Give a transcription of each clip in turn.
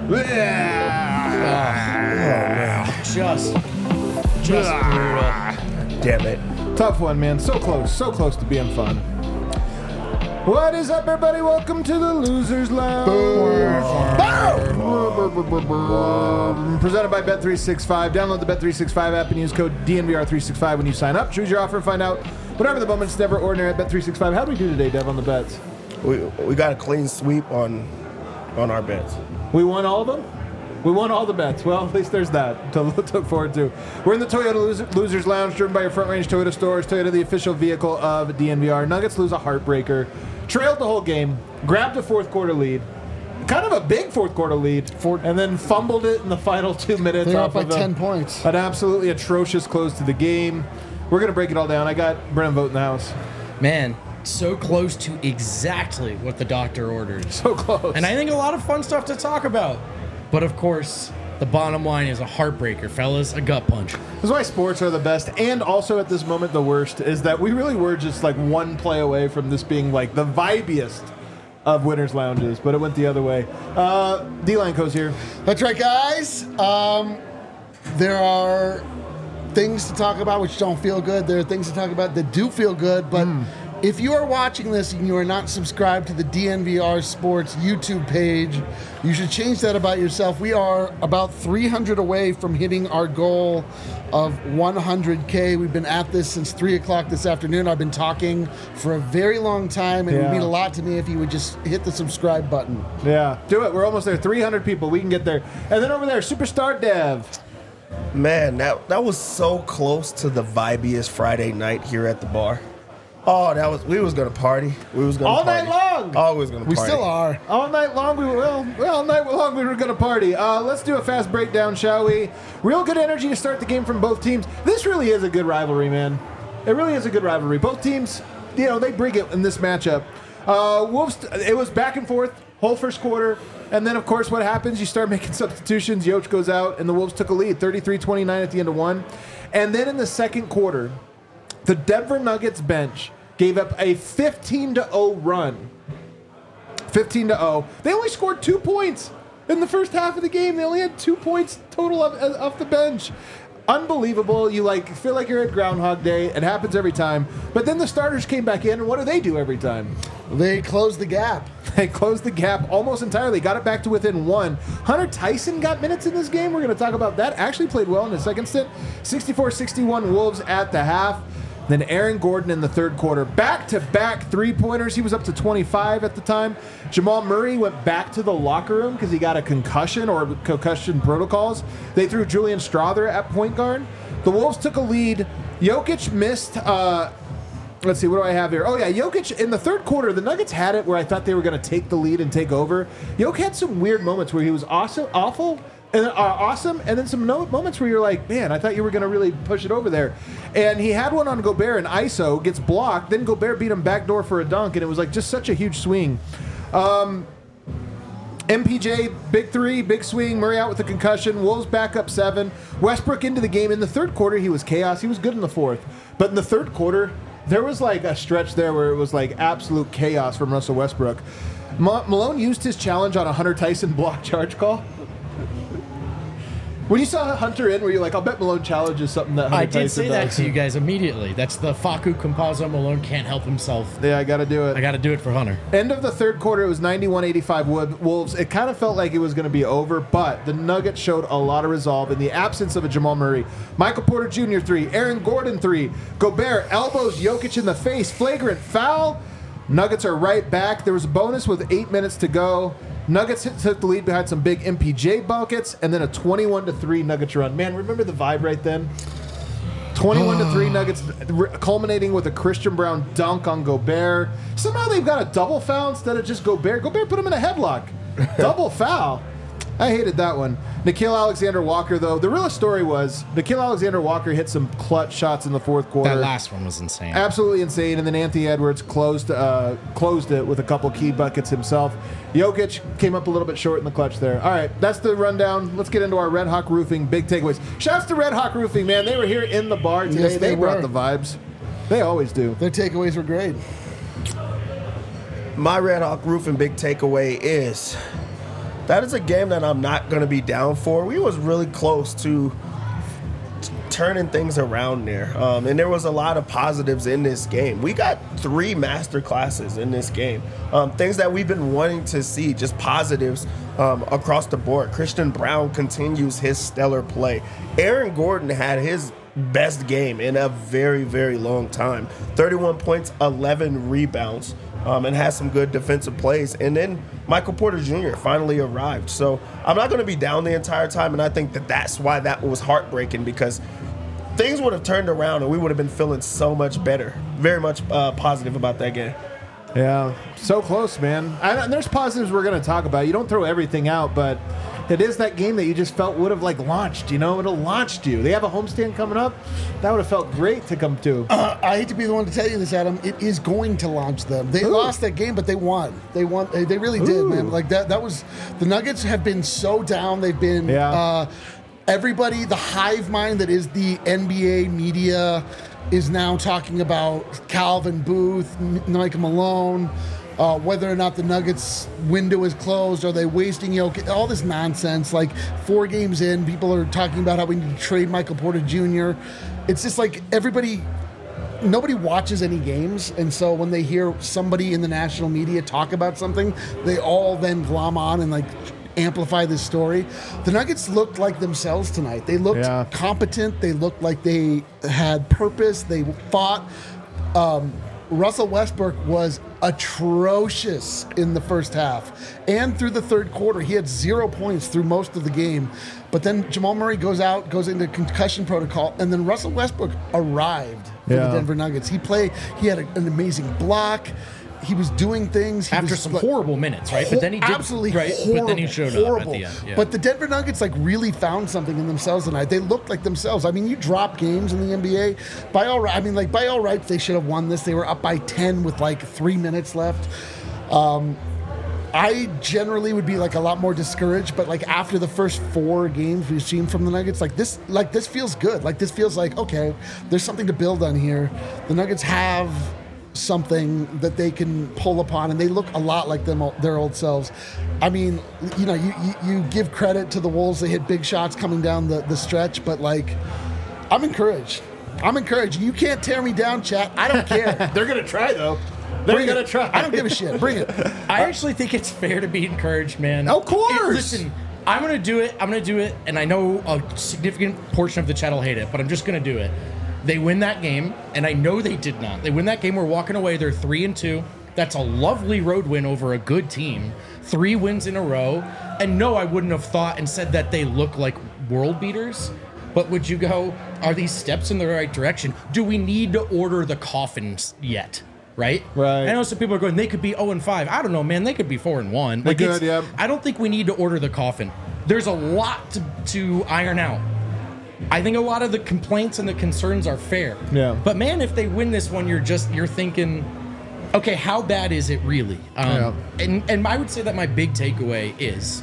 Just brutal. Damn it. Tough one, man. So close to being fun. What is up, everybody? Welcome to the Losers Lounge. Presented by Bet365. Download the Bet365 app and use code DNVR365 when you sign up. Choose your offer and find out whatever the moment's never ordinary at Bet365. How do we do today, Dev, on the bets? We got a clean sweep on our bets. We won all of them? We won all the bets. Well, at least there's that to look forward to. We're in the Toyota Losers Lounge, driven by your Front Range Toyota stores. Toyota, the official vehicle of DNVR. Nuggets lose a heartbreaker. Trailed the whole game. Grabbed a fourth quarter lead. Kind of a big fourth quarter lead. And then fumbled it in the final 2 minutes. They're off up by of 10 points. An absolutely atrocious close to the game. We're going to break it all down. I got Brennan vote in the house. Man, so close to exactly what the doctor ordered. So close. And I think a lot of fun stuff to talk about. But of course, the bottom line is a heartbreaker, fellas. A gut punch. This is why sports are the best, and also at this moment the worst, is that we really were just like one play away from this being like the vibiest of winners' lounges, but it went the other way. D-Line Co's here. That's right, guys. There are things to talk about which don't feel good. There are things to talk about that do feel good, but if you are watching this and you are not subscribed to the DNVR Sports YouTube page, you should change that about yourself. We are about 300 away from hitting our goal of 100K. We've been at this since 3 o'clock this afternoon. I've been talking for a very long time, and it would mean a lot to me if you would just hit the subscribe button. Yeah, do it. We're almost there. 300 people. We can get there. And then over there, Superstar Dev. Man, that was so close to the vibiest Friday night here at the bar. Oh, we was gonna party. We was gonna all party. night long. Always gonna We party. still are. All night long, all night long we were going to party. Let's do a fast breakdown, shall we? Real good energy to start the game from both teams. This really is a good rivalry, man. It really is a good rivalry. Both teams, they bring it in this matchup. Wolves, it was back and forth, whole first quarter. And then, of course, what happens? You start making substitutions. Yoch goes out, and the Wolves took a lead, 33-29 at the end of one. And then in the second quarter, the Denver Nuggets bench gave up a 15-0 run. 15-0. They only scored 2 points in the first half of the game. They only had 2 points total off the bench. Unbelievable. You feel like you're at Groundhog Day. It happens every time. But then the starters came back in, and what do they do every time? They closed the gap. They closed the gap almost entirely. Got it back to within one. Hunter Tyson got minutes in this game. We're going to talk about that. Actually played well in the second stint. 64-61 Wolves at the half. Then Aaron Gordon in the third quarter. Back-to-back three-pointers. He was up to 25 at the time. Jamal Murray went back to the locker room because he got a concussion or concussion protocols. They threw Julian Strawther at point guard. The Wolves took a lead. Jokic missed... let's see, what do I have here? Oh, yeah, Jokic in the third quarter, the Nuggets had it where I thought they were going to take the lead and take over. Jokic had some weird moments where he was awesome, and then some moments where you're like, man, I thought you were going to really push it over there. And he had one on Gobert, and ISO gets blocked. Then Gobert beat him backdoor for a dunk, and it was like just such a huge swing. MPJ, big three, big swing. Murray out with a concussion. Wolves back up 7. Westbrook into the game. In the third quarter, he was chaos. He was good in the fourth. But in the third quarter, there was like a stretch there where it was like absolute chaos from Russell Westbrook. Malone used his challenge on a Hunter Tyson block charge call. When you saw Hunter in, were you like, I'll bet Malone challenges something that Hunter Tyson does? I did say that to you guys immediately. That's the Facu Campazzo. Malone can't help himself. Yeah, I got to do it. I got to do it for Hunter. End of the third quarter, it was 91-85 Wolves. It kind of felt like it was going to be over, but the Nuggets showed a lot of resolve in the absence of a Jamal Murray. Michael Porter Jr. 3, Aaron Gordon 3, Gobert elbows Jokic in the face, flagrant foul. Nuggets are right back. There was a bonus with 8 minutes to go. Nuggets took the lead behind some big MPJ buckets, and then a 21-3 Nuggets run. Man, remember the vibe right then? 21-3 Nuggets, culminating with a Christian Brown dunk on Gobert. Somehow they've got a double foul instead of just Gobert. Gobert put him in a headlock. Double foul. I hated that one. Nickeil Alexander-Walker, though, the real story was Nickeil Alexander-Walker hit some clutch shots in the fourth quarter. That last one was insane. Absolutely insane. And then Anthony Edwards closed it with a couple key buckets himself. Jokic came up a little bit short in the clutch there. All right, that's the rundown. Let's get into our Red Hawk Roofing big takeaways. Shouts to Red Hawk Roofing, man. They were here in the bar today. Yes, they brought were. the vibes. They always do. Their takeaways were great. My Red Hawk Roofing big takeaway is that is a game that I'm not going to be down for. We was really close to turning things around there. And there was a lot of positives in this game. We got 3 master classes in this game. Things that we've been wanting to see, just positives across the board. Christian Brown continues his stellar play. Aaron Gordon had his best game in a very, very long time. 31 points, 11 rebounds, and has some good defensive plays. And then Michael Porter Jr. finally arrived. So I'm not going to be down the entire time, and I think that that's why that was heartbreaking, because things would have turned around and we would have been feeling so much better. Very much positive about that game. Yeah, so close, man. And there's positives we're going to talk about. You don't throw everything out, but it is that game that you just felt would have like launched, you know? It would have launched you. They have a homestand coming up. That would have felt great to come to. I hate to be the one to tell you this, Adam. It is going to launch them. They lost that game, but they won. They won. They really did, man. Like that was the Nuggets have been so down. They've been everybody, the hive mind that is the NBA media is now talking about Calvin Booth, Mike Malone, whether or not the Nuggets window is closed. Are they wasting all this nonsense? Like 4 games in, people are talking about how we need to trade Michael Porter Jr. It's just like nobody watches any games, and so when they hear somebody in the national media talk about something, they all then glom on and like amplify this story. The Nuggets looked like themselves tonight. They looked competent. They looked like they had purpose. They fought. Russell Westbrook was atrocious in the first half and through the third quarter. He had 0 points through most of the game. But then Jamal Murray goes into concussion protocol, and then Russell Westbrook arrived for the Denver Nuggets. He had an amazing block. He was doing things. After some horrible minutes, right? But then he did, absolutely right? horrible, but then he showed up at the end. Yeah. But the Denver Nuggets like really found something in themselves tonight. They looked like themselves. I mean, you drop games in the NBA. By all rights, they should have won this. They were up by 10 with like 3 minutes left. I generally would be like a lot more discouraged, but like after the first 4 games we've seen from the Nuggets, this feels good. Like this feels like, okay, there's something to build on here. The Nuggets have something that they can pull upon, and they look a lot like their old selves. I mean, you give credit to the Wolves. They hit big shots coming down the stretch, but like, I'm encouraged. You can't tear me down, chat. I don't care. They're going to try, though. They're going to try. I don't give a shit. Bring it. I actually think it's fair to be encouraged, man. Of course. Listen, I'm going to do it, and I know a significant portion of the chat will hate it, but I'm just going to do it. They win that game, and I know they did not. They win that game. We're walking away. They're 3-2. That's a lovely road win over a good team. 3 wins in a row. And no, I wouldn't have thought and said that they look like world beaters. But would you go, are these steps in the right direction? Do we need to order the coffins yet? Right? Right. I know some people are going, they could be 0-5. I don't know, man. They could be 4-1. They could, yeah. I don't think we need to order the coffin. There's a lot to iron out. I think a lot of the complaints and the concerns are fair. Yeah. But man, if they win this one, you're thinking, okay, how bad is it really? And I would say that my big takeaway is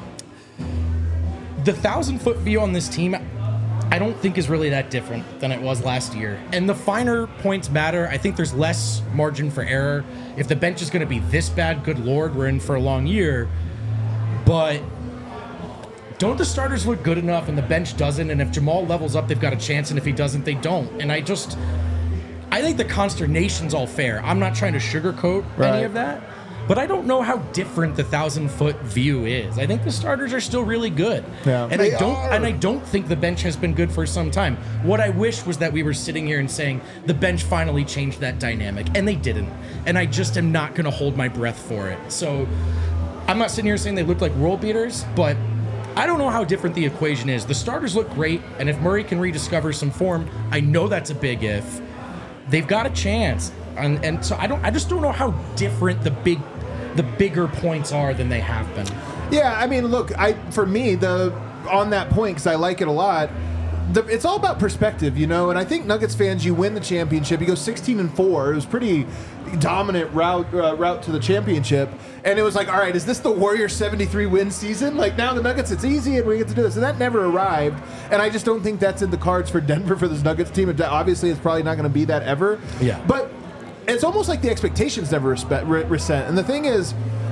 the 1,000-foot view on this team, I don't think is really that different than it was last year. And the finer points matter. I think there's less margin for error. If the bench is going to be this bad, good Lord, we're in for a long year. But don't the starters look good enough and the bench doesn't? And if Jamal levels up, they've got a chance. And if he doesn't, they don't. And I think the consternation's all fair. I'm not trying to sugarcoat any of that. But I don't know how different the 1,000-foot view is. I think the starters are still really good. Yeah. And I don't think the bench has been good for some time. What I wish was that we were sitting here and saying the bench finally changed that dynamic. And they didn't. And I just am not going to hold my breath for it. So I'm not sitting here saying they look like world beaters, but I don't know how different the equation is. The starters look great, and if Murray can rediscover some form, I know that's a big if. They've got a chance, and so I just don't know how different the bigger points are than they have been. Yeah, I mean, look, for me, on that point, because I like it a lot, it's all about perspective, you know. And I think Nuggets fans, you win the championship, you go 16-4. It was pretty dominant route to the championship, and it was like, all right, is this the Warriors 73 win season? Like now the Nuggets, it's easy and we get to do this, and that never arrived. And I just don't think that's in the cards for Denver for this Nuggets team. Obviously, it's probably not going to be that ever. Yeah, but it's almost like the expectations never reset. And the thing is,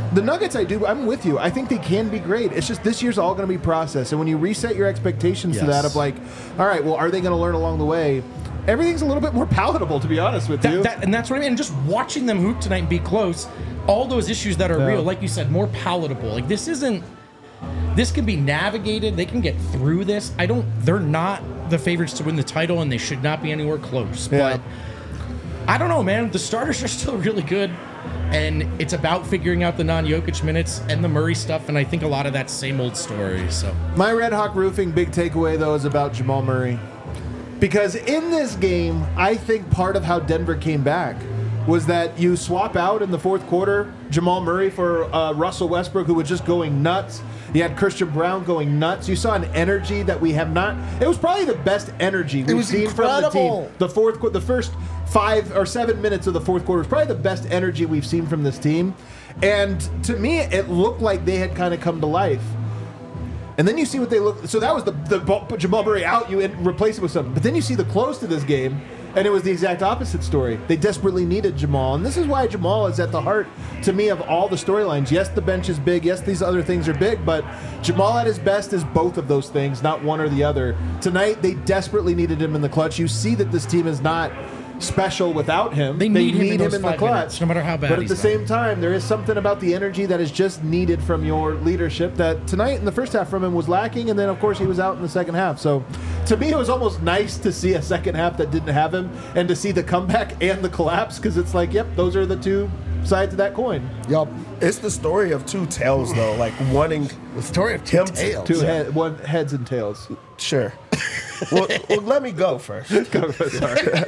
The Nuggets, I'm with you. I think they can be great. It's just this year's all going to be process. And when you reset your expectations to that of like, all right, well, are they going to learn along the way? Everything's a little bit more palatable, to be honest with you. And that's what I mean. And just watching them hoop tonight and be close, all those issues that are real, like you said, more palatable. Like this can be navigated. They can get through this. They're not the favorites to win the title, and they should not be anywhere close. Yeah. But I don't know, man. The starters are still really good. And it's about figuring out the non-Jokic minutes and the Murray stuff, and I think a lot of that same old story. So my Red Hawk Roofing big takeaway, though, is about Jamal Murray. Because in this game, I think part of how Denver came back was that you swap out in the fourth quarter Jamal Murray for Russell Westbrook, who was just going nuts. You had Christian Brown going nuts. You saw an energy that we have not. It was probably the best energy we've seen from the team. The first 5 or 7 minutes of the fourth quarter was probably the best energy we've seen from this team. And to me, it looked like they had kind of come to life. And then you see what they look. So that was the Jamal Murray out. You replace it with something. But then you see the close to this game, and it was the exact opposite story. They desperately needed Jamal. And this is why Jamal is at the heart, to me, of all the storylines. Yes, the bench is big. Yes, these other things are big. But Jamal at his best is both of those things, not one or the other. Tonight, they desperately needed him in the clutch. You see that this team is not special without him. They need him in the clutch, minutes, no matter how bad. But at the same time, there is something about the energy that is just needed from your leadership that tonight in the first half from him was lacking, and then of course he was out in the second half. So to me, it was almost nice to see a second half that didn't have him, and to see the comeback and the collapse, because it's like, yep, those are the two sides of that coin. Yup. It's the story of two tails, though. Like wanting the story of two tails. One heads and tails. Sure. well, let me go first. Sorry.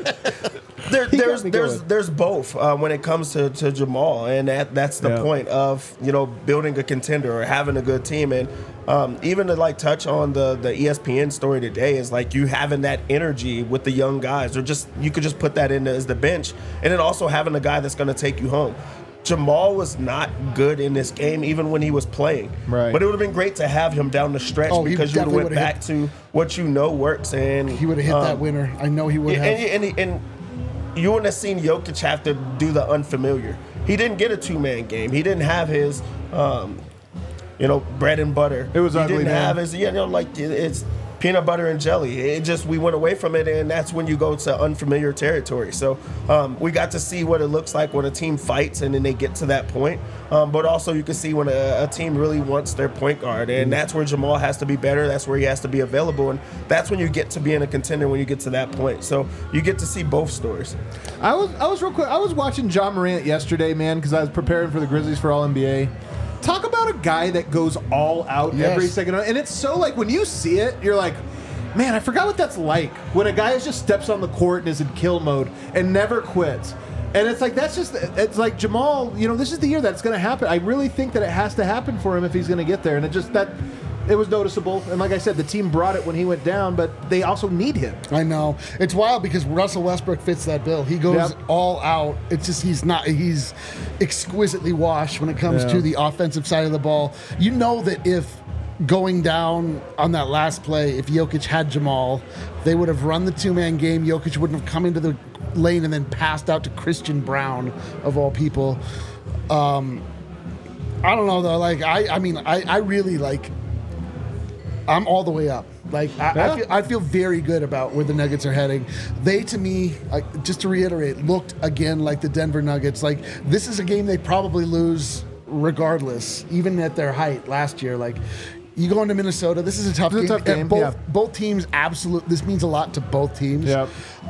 There's both when it comes to Jamal, and that's the point of building a contender or having a good team. And even to like touch on the ESPN story today is like you having that energy with the young guys, or just you could just put that in as the bench, and then also having a guy that's going to take you home. Jamal was not good in this game, even when he was playing. Right. But it would have been great to have him down the stretch because you would have went back to what you know works, and he would have hit that winner. I know he would have. And you wouldn't have seen Jokic have to do the unfamiliar. He didn't get a two-man game. He didn't have his, bread and butter. It was ugly. He didn't have his, it's peanut butter and jelly. It just, we went away from it, and that's when you go to unfamiliar territory. So we got to see what it looks like when a team fights and then they get to that point. But also you can see when a team really wants their point guard, and that's where Jamal has to be better. That's where he has to be available, and that's when you get to being a contender when you get to that point. So you get to see both stories. I was real quick. I was watching John Morant yesterday, man, because I was preparing for the Grizzlies for All-NBA. Talk about a guy that goes all out every second. And it's so like when you see it, you're like, man, I forgot what that's like. When a guy just steps on the court and is in kill mode and never quits. And it's like, it's like Jamal, this is the year that's going to happen. I really think that it has to happen for him if he's going to get there. And it was noticeable. And like I said, the team brought it when he went down, but they also need him. I know. It's wild because Russell Westbrook fits that bill. He goes all out. It's just he's exquisitely washed when it comes to the offensive side of the ball. You know that if going down on that last play, if Jokic had Jamal, they would have run the two-man game. Jokic wouldn't have come into the lane and then passed out to Christian Brown, of all people. I don't know, though. Like, I really like... I'm all the way up. Like I feel very good about where the Nuggets are heading. They, to me, just to reiterate, looked again like the Denver Nuggets. Like this is a game they probably lose regardless, even at their height last year. Like you go into Minnesota, this is a tough game. Both teams, absolutely. This means a lot to both teams. Yep.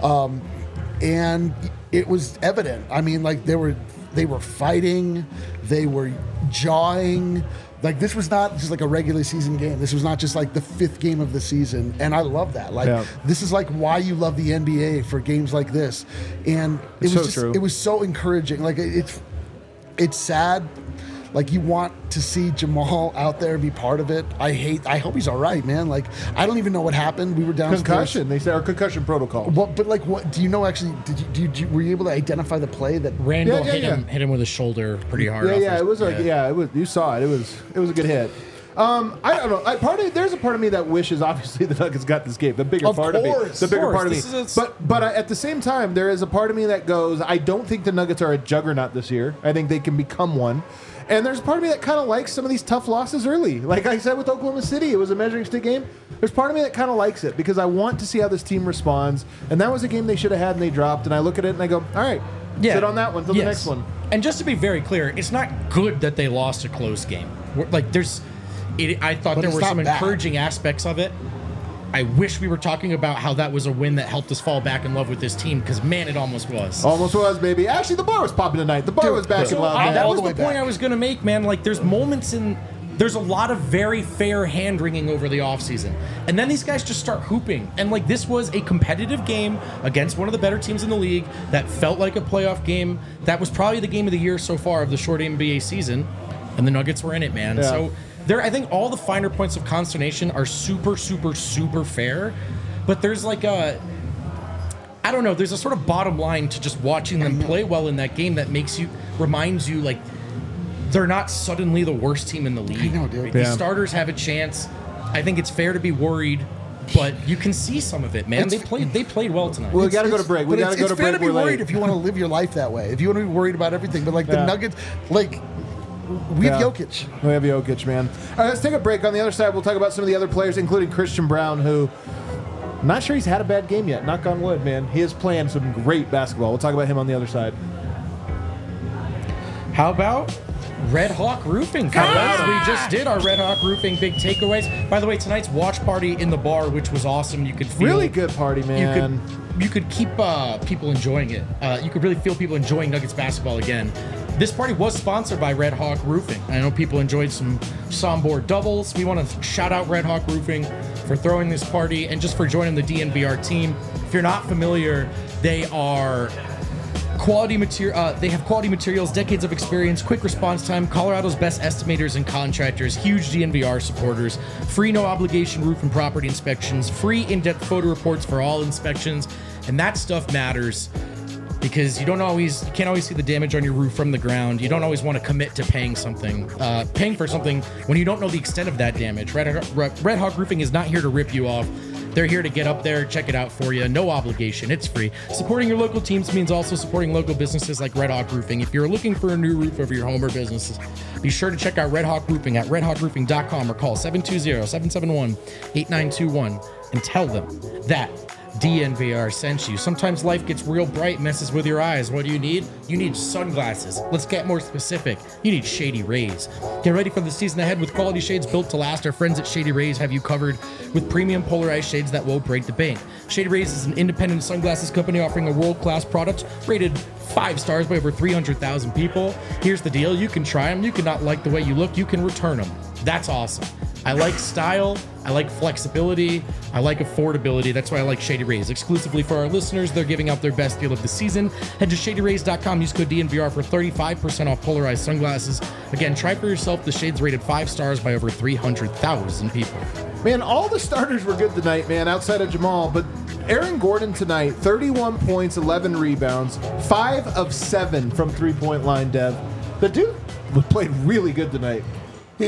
And it was evident. I mean, like they were fighting, they were jawing. Like, this was not just like a regular season game. This was not just like the fifth game of the season. And I love that. Like, this is like why you love the NBA, for games like this. And it was so encouraging. Like, it's sad. Like, you want to see Jamal out there and be part of it. I hope he's all right, man. Like, I don't even know what happened. We were downstairs. Concussion. They said, or concussion protocol. But like, what do you know? Actually, were you able to identify the play that Randall hit him with his shoulder pretty hard? It was like it was. You saw it. It was a good hit. I don't know. There's a part of me that wishes, obviously, the Nuggets got this game. The bigger part of me. But at the same time, there is a part of me that goes, I don't think the Nuggets are a juggernaut this year. I think they can become one. And there's part of me that kind of likes some of these tough losses early. Like I said with Oklahoma City, it was a measuring stick game. There's part of me that kind of likes it because I want to see how this team responds. And that was a game they should have had and they dropped. And I look at it and I go, all right, sit on that one till the next one. And just to be very clear, it's not good that they lost a close game. Like I thought there were some encouraging aspects of it. I wish we were talking about how that was a win that helped us fall back in love with this team because, man, it almost was. Almost was, baby. Actually, the bar was popping tonight. The bar was back in love. That was the point I was going to make, man. Like, there's a lot of very fair hand-wringing over the offseason. And then these guys just start hooping. And, like, this was a competitive game against one of the better teams in the league that felt like a playoff game. That was probably the game of the year so far of the short NBA season. And the Nuggets were in it, man. Yeah. So I think all the finer points of consternation are super, super, super fair. But there's like there's a sort of bottom line to just watching them play well in that game that reminds you, like, they're not suddenly the worst team in the league. I know, dude. The starters have a chance. I think it's fair to be worried, but you can see some of it, man. They played well tonight. Well, we got to go to break. It's fair to be worried if you want to live your life that way. If you want to be worried about everything. But, like, the Nuggets, like, we have Jokic. We have Jokic, man. All right, let's take a break. On the other side, we'll talk about some of the other players, including Christian Braun, who I'm not sure he's had a bad game yet. Knock on wood, man. He is playing some great basketball. We'll talk about him on the other side. How about Red Hawk Roofing? We just did our Red Hawk Roofing big takeaways. By the way, tonight's watch party in the bar, which was awesome. You could feel really good party, man. You could keep people enjoying it. You could really feel people enjoying Nuggets basketball again. This party was sponsored by Red Hawk Roofing. I know people enjoyed some Sombor doubles. We want to shout out Red Hawk Roofing for throwing this party and just for joining the DNVR team. If you're not familiar, they are quality material. They have quality materials, decades of experience, quick response time, Colorado's best estimators and contractors, huge DNVR supporters, free no obligation roof and property inspections, free in-depth photo reports for all inspections, and that stuff matters. Because you can't always see the damage on your roof from the ground. You don't always want to commit to paying for something when you don't know the extent of that damage. Red Hawk Roofing is not here to rip you off. They're here to get up there, check it out for you. No obligation. It's free. Supporting your local teams means also supporting local businesses like Red Hawk Roofing. If you're looking for a new roof over your home or businesses, be sure to check out Red Hawk Roofing at redhawkroofing.com or call 720-771-8921 and tell them that DNVR sent you. Sometimes life gets real bright, messes with your eyes. What do you need? You need sunglasses. Let's get more specific. You need Shady Rays. Get ready for the season ahead with quality shades built to last. Our friends at Shady Rays have you covered with premium polarized shades that won't break the bank. Shady Rays is an independent sunglasses company offering a world-class product rated 5 stars by over 300,000 people. Here's the deal. You can try them. You can not like the way you look. You can return them. That's awesome. I like style, I like flexibility, I like affordability. That's why I like Shady Rays. Exclusively for our listeners, they're giving out their best deal of the season. Head to ShadyRays.com, use code DNVR for 35% off polarized sunglasses. Again, try for yourself the shades rated 5 stars by over 300,000 people. Man, all the starters were good tonight, man, outside of Jamal. But Aaron Gordon tonight, 31 points, 11 rebounds, 5 of 7 from three-point line, Dev. The dude played really good tonight. He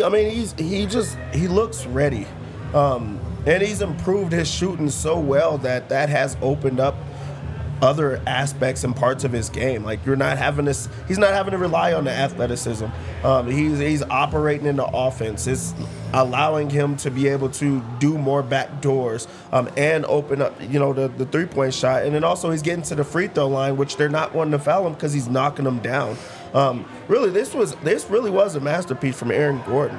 looks ready, and he's improved his shooting so well that has opened up other aspects and parts of his game. Like he's not having to rely on the athleticism. He's operating in the offense. It's allowing him to be able to do more back doors and open up, the 3-point shot. And then also he's getting to the free throw line, which they're not wanting to foul him because he's knocking them down. Really, this really was a masterpiece from Aaron Gordon.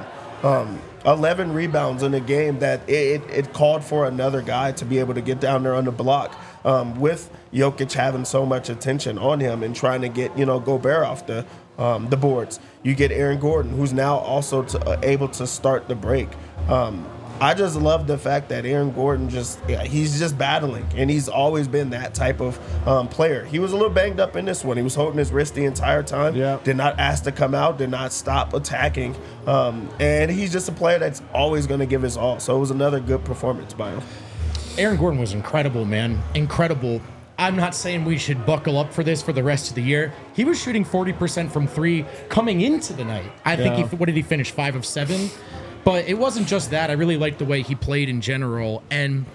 11 rebounds in a game that it called for another guy to be able to get down there on the block. With Jokic having so much attention on him and trying to get Gobert off the boards, you get Aaron Gordon, who's now also able to start the break. I just love the fact that Aaron Gordon he's just battling, and he's always been that type of player. He was a little banged up in this one. He was holding his wrist the entire time. Yeah. Did not ask to come out, did not stop attacking. And he's just a player that's always going to give his all. So it was another good performance by him. Aaron Gordon was incredible, man. Incredible. I'm not saying we should buckle up for this for the rest of the year. He was shooting 40% from 3 coming into the night. I think what did he finish? 5 of 7? But it wasn't just that. I really liked the way he played in general. And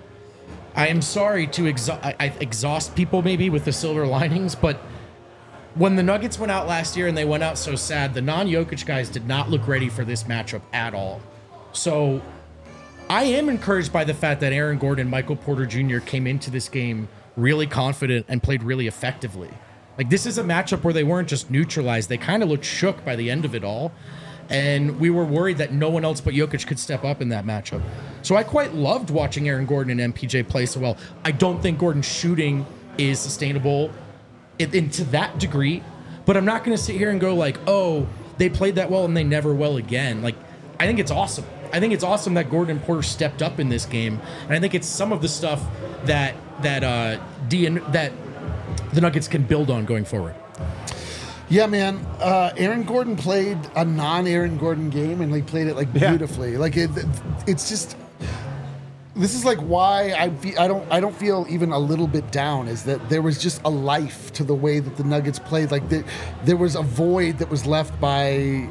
I am sorry to exhaust people maybe with the silver linings, but when the Nuggets went out last year and they went out so sad, the non-Jokic guys did not look ready for this matchup at all. So I am encouraged by the fact that Aaron Gordon and Michael Porter Jr. came into this game really confident and played really effectively. Like, this is a matchup where they weren't just neutralized. They kind of looked shook by the end of it all. And we were worried that no one else but Jokic could step up in that matchup. So I quite loved watching Aaron Gordon and MPJ play so well. I don't think Gordon's shooting is sustainable to that degree, but I'm not going to sit here and go like, oh, they played that well and they never will again. Like, I think it's awesome. I think it's awesome that Gordon and Porter stepped up in this game, and I think it's some of the stuff that the Nuggets can build on going forward. Yeah, man. Aaron Gordon played a non-Aaron Gordon game, and he played it beautifully. Like it's just. This is like why I don't feel even a little bit down. Is that there was just a life to the way that the Nuggets played. Like there was a void that was left by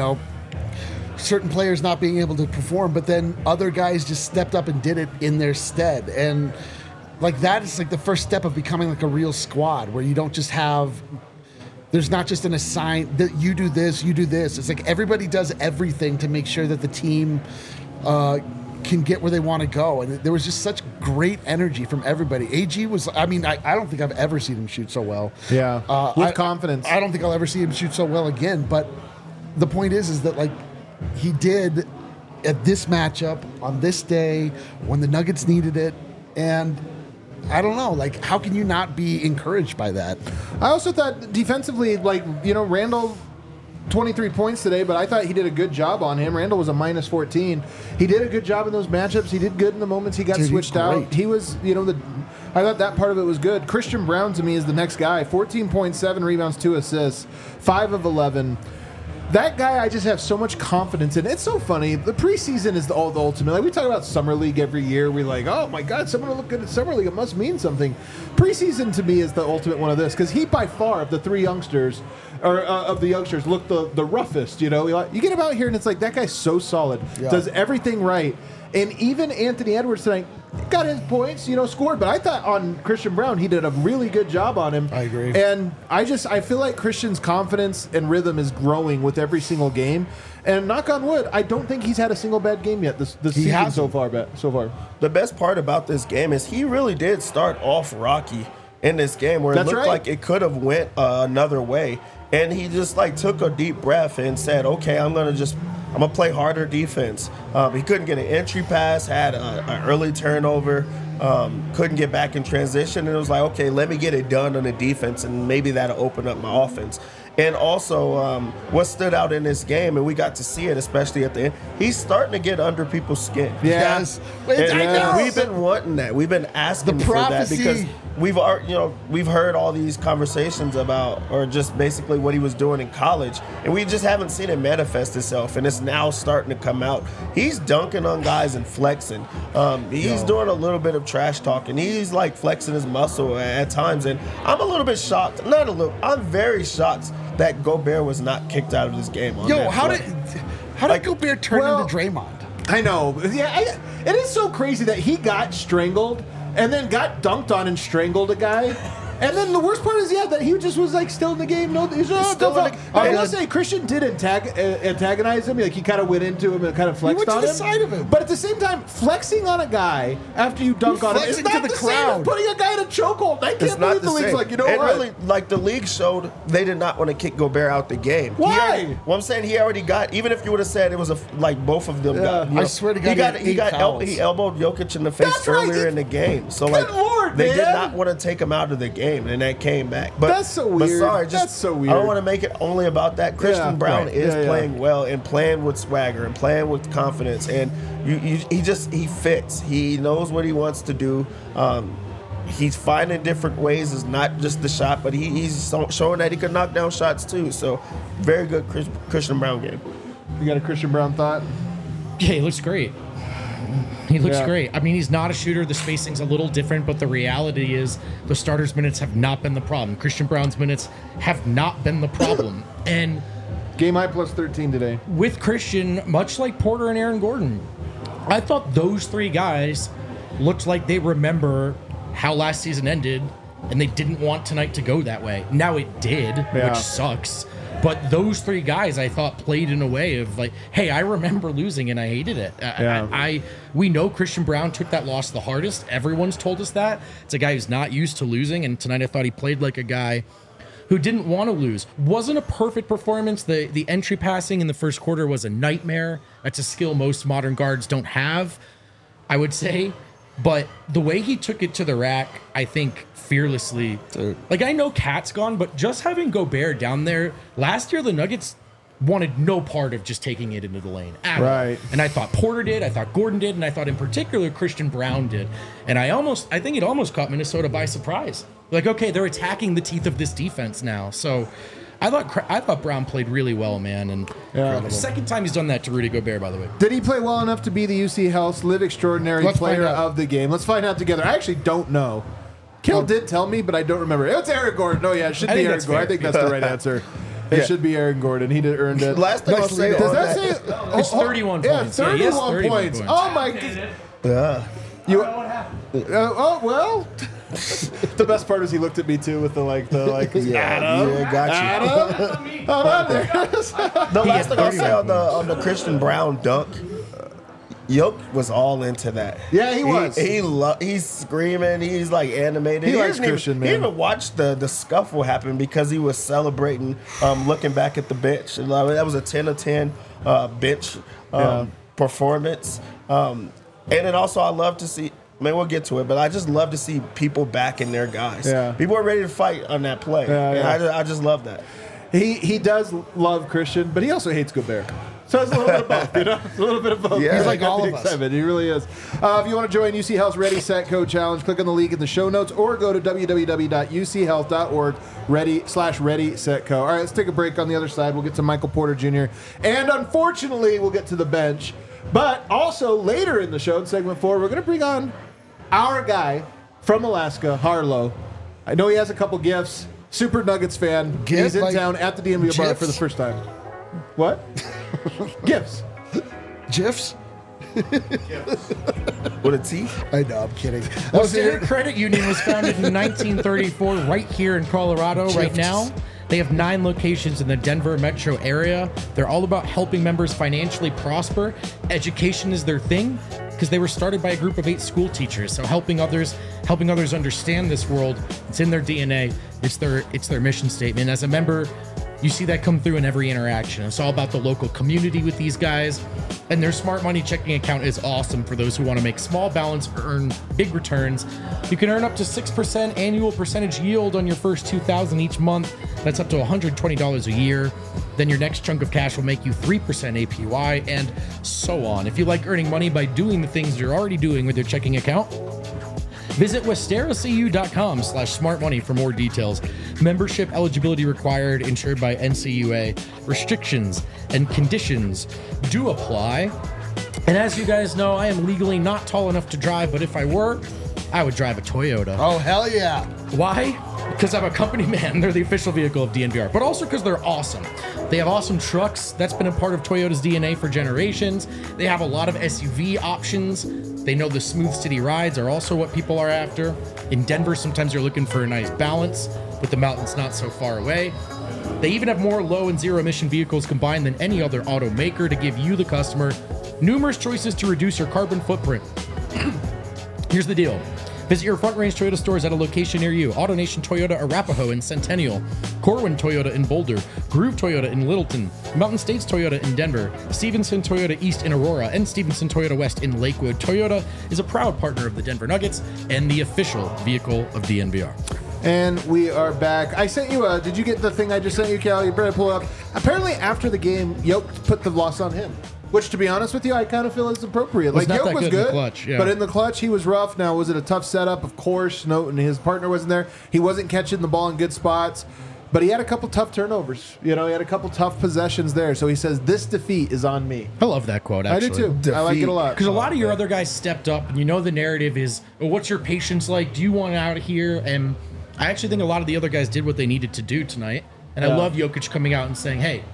certain players not being able to perform, but then other guys just stepped up and did it in their stead. And like that is like the first step of becoming like a real squad, where you don't just have. There's not just an assigned that you do this, you do this. It's like everybody does everything to make sure that the team can get where they want to go. And there was just such great energy from everybody. AG was, I don't think I've ever seen him shoot so well. Yeah, with confidence. I don't think I'll ever see him shoot so well again. But the point is that like he did at this matchup on this day when the Nuggets needed it. And I don't know, like, how can you not be encouraged by that? I also thought defensively, Randall, 23 points today, but I thought he did a good job on him. Randall was a minus 14. He did a good job in those matchups. He did good in the moments he got switched out. He was, I thought that part of it was good. Christian Brown, to me, is the next guy. 14.7 rebounds, 2 assists, 5 of 11. That guy, I just have so much confidence in. It's so funny. The preseason is the ultimate. Like, we talk about Summer League every year. We're like, oh, my God, someone will look good at Summer League. It must mean something. Preseason, to me, is the ultimate one of this, because he, by far, of the three youngsters, looked the roughest, You get him out here, and it's like, that guy's so solid. Yeah. Does everything right. And even Anthony Edwards tonight got his points, scored. But I thought on Christian Brown, he did a really good job on him. I agree. And I feel like Christian's confidence and rhythm is growing with every single game. And knock on wood, I don't think he's had a single bad game yet this season so far. The best part about this game is he really did start off rocky in this game, where it looked like it could have went another way. And he just took a deep breath and said, okay, I'm going to play harder defense. He couldn't get an entry pass, had an early turnover, couldn't get back in transition. And it was like, okay, let me get it done on the defense, and maybe that'll open up my offense. And also, what stood out in this game, and we got to see it, especially at the end, he's starting to get under people's skin. Yes. And we've been wanting that. We've been asking for that, because we've heard all these conversations about, or just basically what he was doing in college, and we just haven't seen it manifest itself, and it's now starting to come out. He's dunking on guys and flexing. He's doing a little bit of trash talking. He's flexing his muscle at times, and I'm a little bit shocked. I'm very shocked that Gobert was not kicked out of this game. How did Gobert turn into Draymond? I know. Yeah, it is so crazy that he got strangled and then got dunked on and strangled a guy. And then the worst part is, that he just was still in the game. No, he's still in the game. I will say, Christian did antagonize him. He kind of went into him and kind of flexed on him. He went to the side of him. But at the same time, flexing on a guy after you dunk on him is not the same as putting a guy in a chokehold. I can't believe the league's what? Really, the league showed they did not want to kick Gobert out the game. Why? I'm saying he already got, even if you would have said it was both of them got. I swear to God, he elbowed Jokic in the face earlier in the game. So they did not want to take him out of the game. And that came back. But that's so weird. But sorry, that's so weird. I don't want to make it only about that. Christian Brown is playing well and playing with swagger and playing with confidence. And he fits. He knows what he wants to do. He's finding different ways. It's not just the shot, but he's showing that he can knock down shots too. So very good Christian Brown game. You got a Christian Brown thought? Yeah, he looks great. He looks great. I mean, he's not a shooter. The spacing's a little different, but the reality is the starters' minutes have not been the problem. Christian Brown's minutes have not been the problem. And game high plus 13 today. With Christian, much like Porter and Aaron Gordon, I thought those three guys looked like they remember how last season ended and they didn't want tonight to go that way. Now it did, Yeah. which sucks. But those three guys, I thought, played in a way of like, hey, I remember losing and I hated it. We know Christian Braun took that loss the hardest. Everyone's told us that. It's a guy who's not used to losing, and tonight I thought he played like a guy who didn't want to lose. Wasn't a perfect performance. The entry passing in the first quarter was a nightmare. That's a skill most modern guards don't have, I would say. But the way he took it to the rack, I think fearlessly. Dude. Like, I know Cat's gone, but just having Gobert down there, last year the Nuggets wanted no part of just taking it into the lane at all. Right. And I thought Porter did, I thought Gordon did, and I thought in particular Christian Braun did. And I think it almost caught Minnesota by surprise. Like, okay, they're attacking the teeth of this defense now. So I thought Braun played really well, man. And second time he's done that to Rudy Gobert, by the way. Did he play well enough to be the UC Health Live Extraordinary Let's player find out. of the game? Let's find out together. I actually don't know. Kill did tell me, but I don't remember. It's Aaron Gordon. No, yeah, it should I be think Aaron that's Gordon. I fair. think that's the right answer. It should be Aaron Gordon. He did earned it. Last thing I'll say Does on that that- say? It's 31 Yeah, points. Yeah, he has 31 31 points. points. Oh my god. Yeah. You. Oh well. The best part is he looked at me too with the Yeah, got you. Adam. Hold on there. The He last had thing I'll say 31 on the Christian Braun dunk, Yoke was all into that. Yeah, he was. He's screaming. He's like animated. He likes didn't Christian, man. He even watched the scuffle happen because he was celebrating, looking back at the bench. And that was a 10 of 10 bench performance. And then also I love to see. We'll get to it, but I just love to see people backing their guys. Yeah. People are ready to fight on that play. Yeah, And yeah. I just love that. He does love Christian, but he also hates Gobert. So it's a little bit of both, you know? It's a little bit of both. Yeah. He's like Got all the of us. excitement. He really is. If you want to join UC Health's Ready, Set, Go Challenge, click on the link in the show notes or go to www.uchealth.org/Ready, Set, Go. All right, let's take a break on the other side. We'll get to Michael Porter Jr. And unfortunately, we'll get to the bench. But also later in the show, in segment 4, we're going to bring on our guy from Alaska, Harlow. I know he has a couple gifts. Super Nuggets fan. Gift, He's in like town at the DMV bar for the gifs? first time. What? Gifts. GIFs? With a T? I know, I'm kidding. Standard Credit Union was founded in 1934 right here in Colorado. Right now, they have 9 locations in the Denver metro area. They're all about helping members financially prosper. Education is their thing because they were started by a group of 8 school teachers. So helping others understand this world, it's in their DNA. It's their mission statement. As a member, you see that come through in every interaction. It's all about the local community with these guys. And their Smart Money checking account is awesome for those who want to make small balance or earn big returns. You can earn up to 6% annual percentage yield on your first $2,000 each month. That's up to $120 a year. Then your next chunk of cash will make you 3% APY and so on. If you like earning money by doing the things you're already doing with your checking account, visit westeracu.com/smartmoney for more details. Membership eligibility required, insured by NCUA. Restrictions and conditions do apply. And as you guys know, I am legally not tall enough to drive, but if I were, I would drive a Toyota. Oh, hell yeah. Why? Because I'm a company man. They're the official vehicle of DNVR, but also because they're awesome. They have awesome trucks. That's been a part of Toyota's DNA for generations. They have a lot of SUV options. They know the smooth city rides are also what people are after. In Denver, sometimes you're looking for a nice balance with the mountains not so far away. They even have more low and zero emission vehicles combined than any other automaker to give you, the customer, numerous choices to reduce your carbon footprint. Here's the deal. Visit your Front Range Toyota stores at a location near you. AutoNation Toyota Arapahoe in Centennial, Corwin Toyota in Boulder, Groove Toyota in Littleton, Mountain States Toyota in Denver, Stevenson Toyota East in Aurora, and Stevenson Toyota West in Lakewood. Toyota is a proud partner of the Denver Nuggets and the official vehicle of DNVR. And we are back. I sent you did you get the thing I just sent you, Cal? You better pull it up. Apparently, after the game, Yoke put the loss on him. Which, to be honest with you, I kind of feel is appropriate. Was Like, not Yoke that was good in the good, clutch, yeah. but in the clutch, he was rough. Now, was it a tough setup? Of course. No, and his partner wasn't there. He wasn't catching the ball in good spots. But he had a couple tough turnovers. You know, he had a couple tough possessions there. So he says, this defeat is on me. I love that quote, I actually. do, too. I like it a lot. Because a lot of your other guys stepped up, and you know the narrative is, well, what's your patience like? Do you want out of here? And I actually think a lot of the other guys did what they needed to do tonight. And I love Jokic coming out and saying, hey,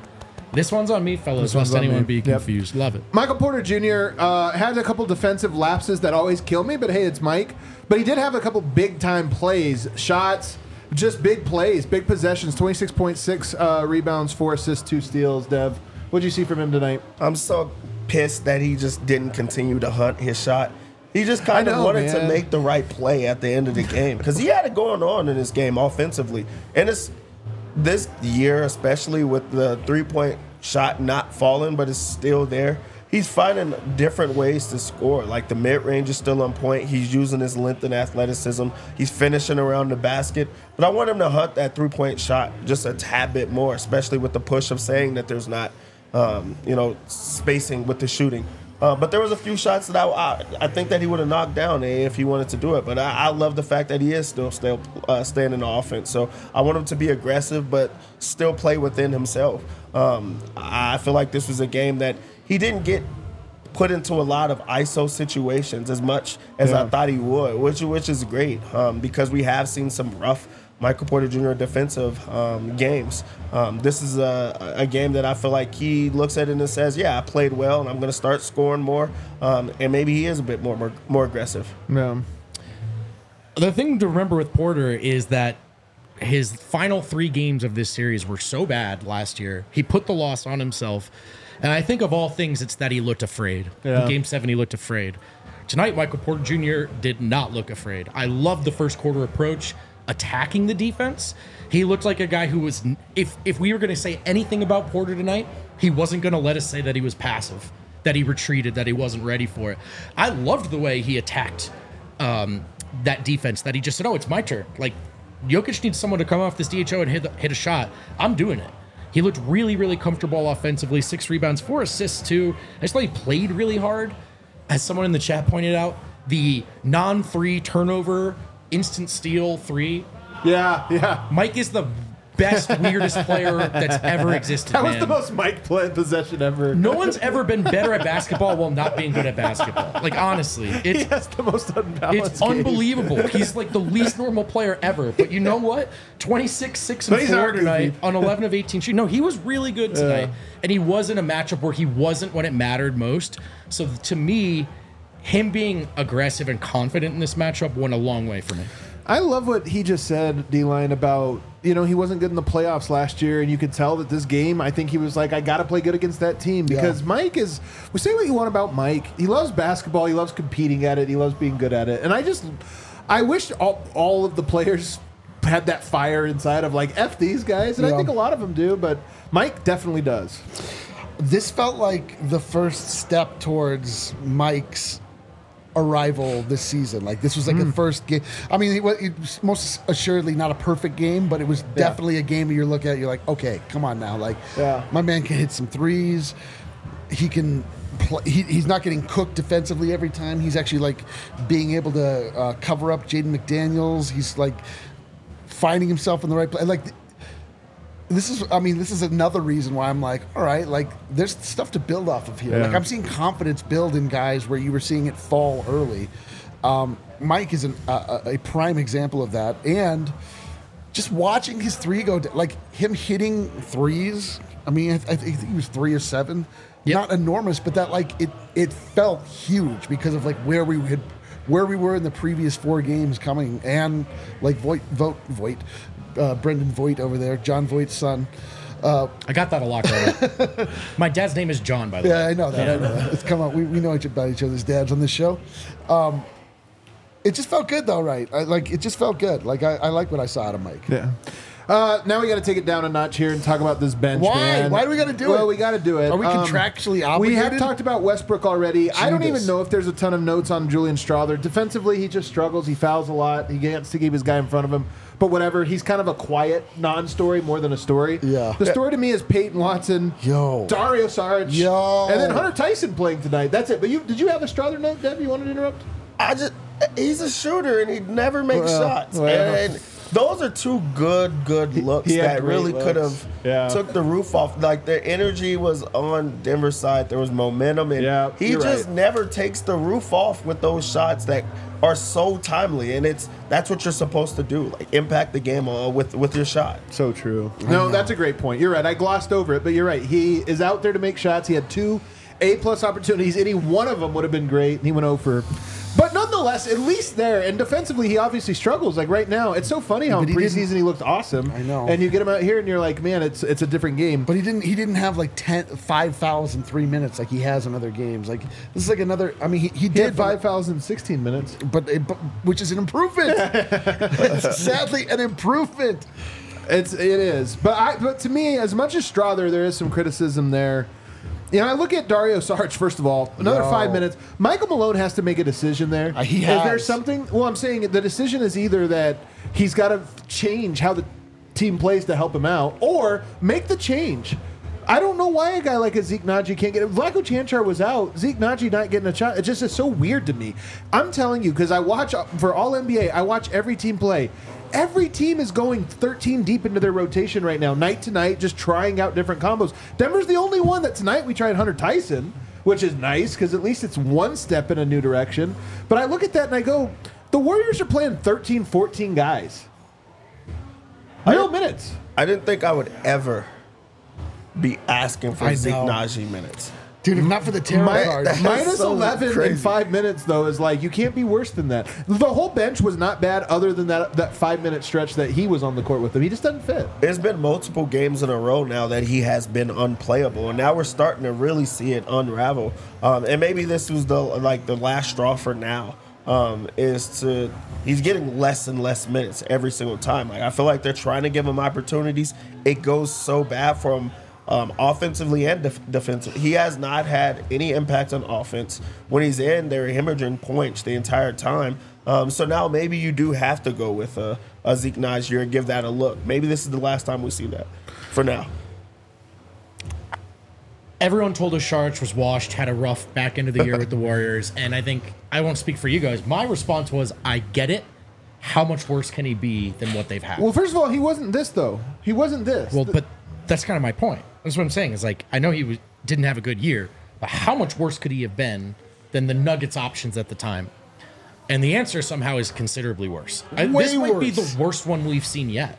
This one's on me, fellas, This one's lest on anyone me. be Yep. confused. Love it. Michael Porter Jr. Had a couple defensive lapses that always kill me, but hey, it's Mike. But he did have a couple big-time plays, shots, just big plays, big possessions, 26.6 rebounds, 4 assists, 2 steals. Dev, what'd you see from him tonight? I'm so pissed that he just didn't continue to hunt his shot. He just kind of wanted to make the right play at the end of the game because he had it going on in this game offensively. And it's this year, especially with the three-point shot not falling, but it's still there. He's finding different ways to score. Like the mid-range is still on point. He's using his length and athleticism. He's finishing around the basket. But I want him to hunt that three-point shot just a tad bit more, especially with the push of saying that there's not, spacing with the shooting. But there was a few shots that I think that he would have knocked down if he wanted to do it. But I love the fact that he is still staying in the offense. So I want him to be aggressive, but still play within himself. I feel like this was a game that he didn't get put into a lot of ISO situations as much as I thought he would, which is great because we have seen some rough Michael Porter Jr. defensive games. This is a game that I feel like he looks at it and says, yeah, I played well and I'm going to start scoring more. And maybe he is a bit more aggressive. Yeah. The thing to remember with Porter is that his final 3 games of this series were so bad last year. He put the loss on himself. And I think of all things, it's that he looked afraid. Yeah. In Game 7, he looked afraid. Tonight, Michael Porter Jr. did not look afraid. I loved the first quarter approach, attacking the defense. He looked like a guy who was, if we were going to say anything about Porter tonight, he wasn't going to let us say that he was passive, that he retreated, that he wasn't ready for it. I loved the way he attacked that defense, that he just said, oh, it's my turn. Like, Jokic needs someone to come off this DHO and hit a shot. I'm doing it. He looked really, really comfortable offensively. 6 rebounds, 4 assists too. I just thought he played really hard. As someone in the chat pointed out, the non-3 turnover, instant steal 3. Yeah. Mike is the best, weirdest player that's ever existed. That was man. the most Mike play possession ever. No one's ever been better at basketball while not being good at basketball. Like, honestly, He has the most unbalanced it's game. unbelievable. He's like the least normal player ever. But you know what? 26, 6, But and he's 4 not tonight goofy. on 11 of 18 shooting. No, he was really good tonight. And he was in a matchup where he wasn't when it mattered most. So to me, him being aggressive and confident in this matchup went a long way for me. I love what he just said, D-Line, about, he wasn't good in the playoffs last year, and you could tell that this game, I think he was like, I got to play good against that team because Mike is, we say what you want about Mike. He loves basketball. He loves competing at it. He loves being good at it. And I wish all of the players had that fire inside of like, F these guys. And I think a lot of them do, but Mike definitely does. This felt like the first step towards Mike's arrival this season. Like this was like the first game. I mean, it was most assuredly not a perfect game, but it was definitely a game that you're looking at. You're like, okay, come on now. Like, my man can hit some threes. He can play. He's not getting cooked defensively every time. He's actually like being able to cover up Jaden McDaniels. He's like finding himself in the right place. Like. This is another reason why I'm like, all right, like there's stuff to build off of here. Yeah. Like I'm seeing confidence build in guys where you were seeing it fall early. Mike is a prime example of that, and just watching his 3 go, like him hitting threes. I mean, I think he was 3 or 7, not enormous, but that like it felt huge because of like where we were in the previous 4 games coming, and like Brendan Voigt over there, John Voigt's son. I got that a lot earlier. My dad's name is John, by the way. Yeah, I know that. It's come out. We know about each other's dads on this show. It just felt good, though, right? It just felt good. Like I like what I saw out of Mike. Yeah. Now we got to take it down a notch here and talk about this bench. Why? Man. Why do we got to do it? Well, we got to do it. Are we contractually obligated? We have talked about Westbrook already. I don't even Judas. know if there's a ton of notes on Julian Strawther. Defensively, he just struggles. He fouls a lot. He gets to keep his guy in front of him. But whatever, he's kind of a quiet non-story more than a story. Yeah. The story to me is Peyton Watson, Dario Saric, and then Hunter Tyson playing tonight. That's it. But did you have a Strawther note, Deb? You wanted to interrupt? He's a shooter and he never makes shots. Well. And Those are two good looks he had that great really could looks. have took the roof off. Like, their energy was on Denver's side. There was momentum, and he just never takes the roof off with those shots that are so timely. And that's what you're supposed to do, like impact the game with your shot. So true. No, that's a great point. You're right. I glossed over it, but you're right. He is out there to make shots. He had 2 A+ opportunities. Any one of them would have been great. And he went over. But nonetheless, at least there, and defensively, he obviously struggles. Like right now, it's so funny how in preseason he looked awesome. I know. And you get him out here, and you're like, man, it's a different game. But he didn't have like 5 fouls in 3 minutes like he has in other games. Like this is like another. I mean, he did had 5 fouls in 16 minutes, but which is an improvement. Sadly, an improvement. It is. But to me, as much as Strother, there is some criticism there. You know, I look at Dario Saric, first of all, another 5 minutes. Michael Malone has to make a decision there. He Is there something? Well, I'm saying the decision is either that he's got to change how the team plays to help him out, or make the change. I don't know why a guy like a Zeke Naji can't get it. Vlatko Čančar was out. Zeke Naji not getting a shot. It just is so weird to me. I'm telling you, because I watch, for all NBA, I watch every team play. Every team is going 13 deep into their rotation right now, night to night, just trying out different combos. Denver's the only one that tonight we tried Hunter Tyson, which is nice because at least it's one step in a new direction. But I look at that and I go, the Warriors are playing 13, 14 guys. Real minutes. I didn't think I would ever be asking for Zeke Naji minutes. Dude, if not for the tarot card. Minus so 11 crazy. in 5 minutes, though, is like, you can't be worse than that. The whole bench was not bad other than that 5-minute stretch that he was on the court with them. He just doesn't fit. There's been multiple games in a row now that he has been unplayable, and now we're starting to really see it unravel. And maybe this was the last straw for now. He's getting less and less minutes every single time. Like, I feel like they're trying to give him opportunities. It goes so bad for him. Offensively and defensively. He has not had any impact on offense. When he's in, they're hemorrhaging points the entire time. So now maybe you do have to go with a Zeke Naji and give that a look. Maybe this is the last time we see that for now. Everyone told us Saric was washed, had a rough back end of the year with the Warriors, and I think, I won't speak for you guys, my response was, I get it. How much worse can he be than what they've had? Well, first of all, he wasn't this, though. He wasn't this. Well, but that's kind of my point. That's what I'm saying. Is like, I know he didn't have a good year, but how much worse could he have been than the Nuggets options at the time? And the answer somehow is considerably worse. This might be the worst one we've seen yet.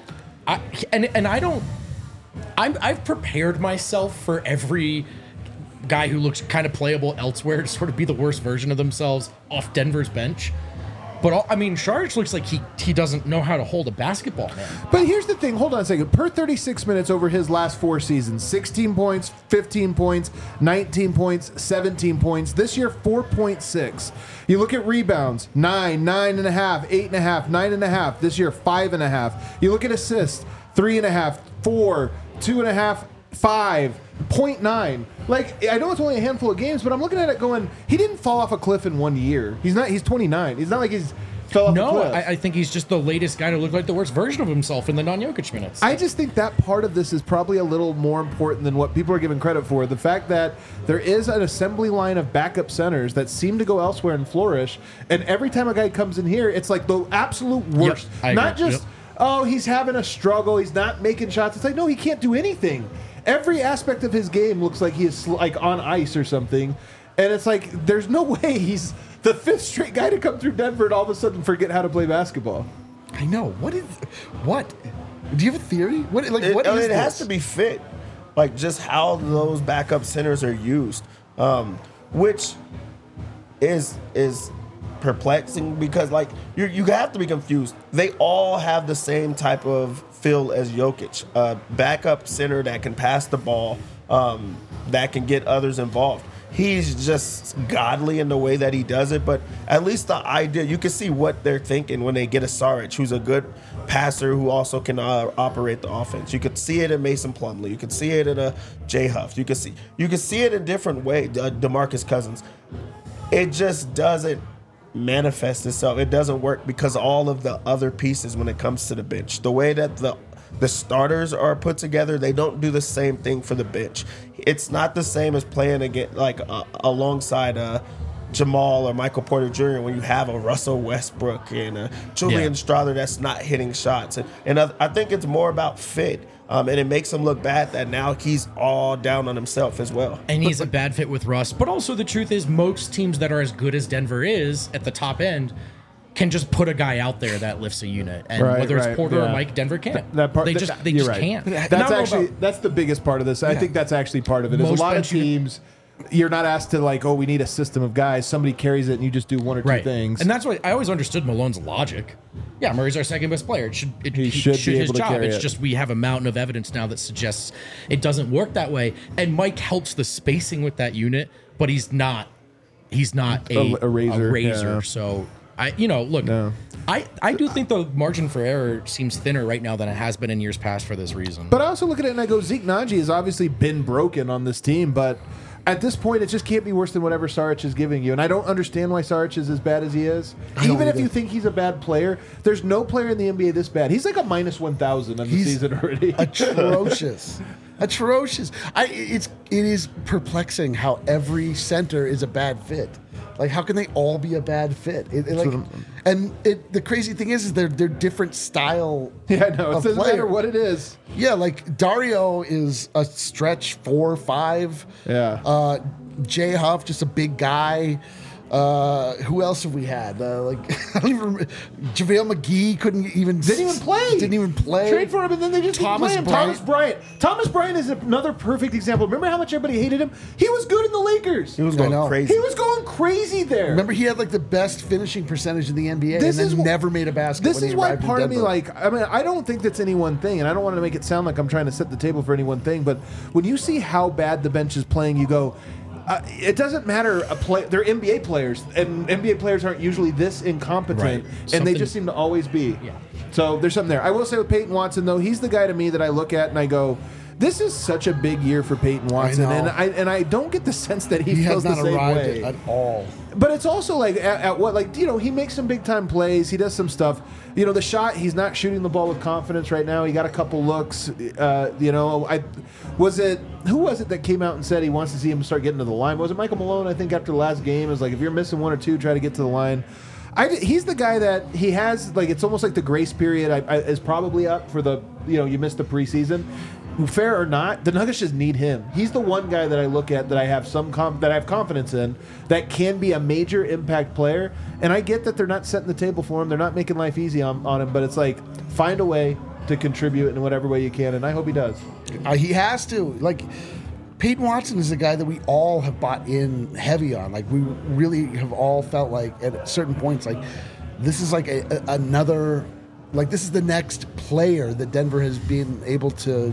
I've prepared myself for every guy who looks kind of playable elsewhere to sort of be the worst version of themselves off Denver's bench. But, Saric looks like he doesn't know how to hold a basketball, man. But here's the thing. Hold on a second. Per 36 minutes over his last 4 seasons, 16 points, 15 points, 19 points, 17 points. This year, 4.6. You look at rebounds, 9, 9.5, 8.5, 9.5. This year, 5.5. You look at assists, 3.5, 4, 2.5, 5. 0.9. Like, I know it's only a handful of games, but I'm looking at it going, he didn't fall off a cliff in 1 year. He's 29. He's not like he's fell off a cliff. I think he's just the latest guy to look like the worst version of himself in the non-Jokic minutes. I just think that part of this is probably a little more important than what people are giving credit for. The fact that there is an assembly line of backup centers that seem to go elsewhere and flourish, and every time a guy comes in here, it's like the absolute worst. Yep, not just, he's having a struggle, he's not making shots. It's like, no, he can't do anything. Every aspect of his game looks like he is like on ice or something. And it's like, there's no way he's the 5th straight guy to come through Denver and all of a sudden forget how to play basketball. I know. What? Do you have a theory? It has to be fit. Like, just how those backup centers are used. Which is perplexing because, like, you have to be confused. They all have the same type of feel as Jokic, backup center that can pass the ball, that can get others involved. He's just godly in the way that he does it, but at least the idea, you can see what they're thinking when they get a Saric, who's a good passer who also can operate the offense. You could see it in Mason Plumlee. You could see it in a Jay Huff. You could see it in different ways. DeMarcus Cousins. It just doesn't manifest itself. It doesn't work because all of the other pieces when it comes to the bench. The way that the starters are put together, they don't do the same thing for the bench. It's not the same as playing against alongside Jamal or Michael Porter Jr. when you have a Russell Westbrook and a Julian Strawther that's not hitting shots. And I think it's more about fit. And it makes him look bad that now he's all down on himself as well. And he's a bad fit with Russ. But also the truth is most teams that are as good as Denver is at the top end can just put a guy out there that lifts a unit. And whether it's Porter or Mike, Denver can't. They just can't. That's the biggest part of this. I think that's actually part of it. There's a lot of teams. You're not asked to we need a system of guys. Somebody carries it and you just do one or two things. And that's why I always understood Malone's logic. Yeah, Murray's our second best player. He should be able to carry It's just we have a mountain of evidence now that suggests it doesn't work that way. And Mike helps the spacing with that unit, but he's not a razor. Yeah. So I do think the margin for error seems thinner right now than it has been in years past for this reason. But I also look at it and I go, Zeke Naji has obviously been broken on this team, but at this point, it just can't be worse than whatever Saric is giving you. And I don't understand why Saric is as bad as he is. Even if you think he's a bad player, there's no player in the NBA this bad. He's like a minus 1,000 on the season already. Atrocious. Atrocious. It is perplexing how every center is a bad fit. Like, how can they all be a bad fit? The crazy thing is they're different style. Yeah, I know. It doesn't matter what it is. Yeah, like Dario is a stretch 4 or 5. Yeah. Jay Huff, just a big guy. Who else have we had? I don't even remember. JaVale McGee didn't even play. Trade for him, and then they just didn't play him. Thomas Bryant is another perfect example. Remember how much everybody hated him? He was good in the Lakers. He was going crazy. He was going crazy there. Remember, he had the best finishing percentage in the NBA, never made a basket. This is why part of me, I don't think that's any one thing, and I don't want to make it sound like I'm trying to set the table for any one thing, but when you see how bad the bench is playing, you go, it doesn't matter. They're NBA players, and NBA players aren't usually this incompetent, and they just seem to always be. Yeah. So there's something there. I will say with Peyton Watson, though, he's the guy to me that I look at and I go, this is such a big year for Peyton Watson, and I don't get the sense that he feels has not the same arrived way at all. But it's also he makes some big time plays. He does some stuff. The shot, he's not shooting the ball with confidence right now. He got a couple looks. Who was it that came out and said he wants to see him start getting to the line? Was it Michael Malone? I think after the last game, it was like, if you're missing one or two, try to get to the line. He's the guy that he has, it's almost like the grace period is probably up for you missed the preseason. Fair or not, the Nuggets just need him. He's the one guy that I look at that I have confidence in that can be a major impact player. And I get that they're not setting the table for him. They're not making life easy on him. But it's like, find a way to contribute in whatever way you can. And I hope he does. He has to. Peyton Watson is a guy that we all have bought in heavy on. We really have all felt like at certain points, this is another, this is the next player that Denver has been able to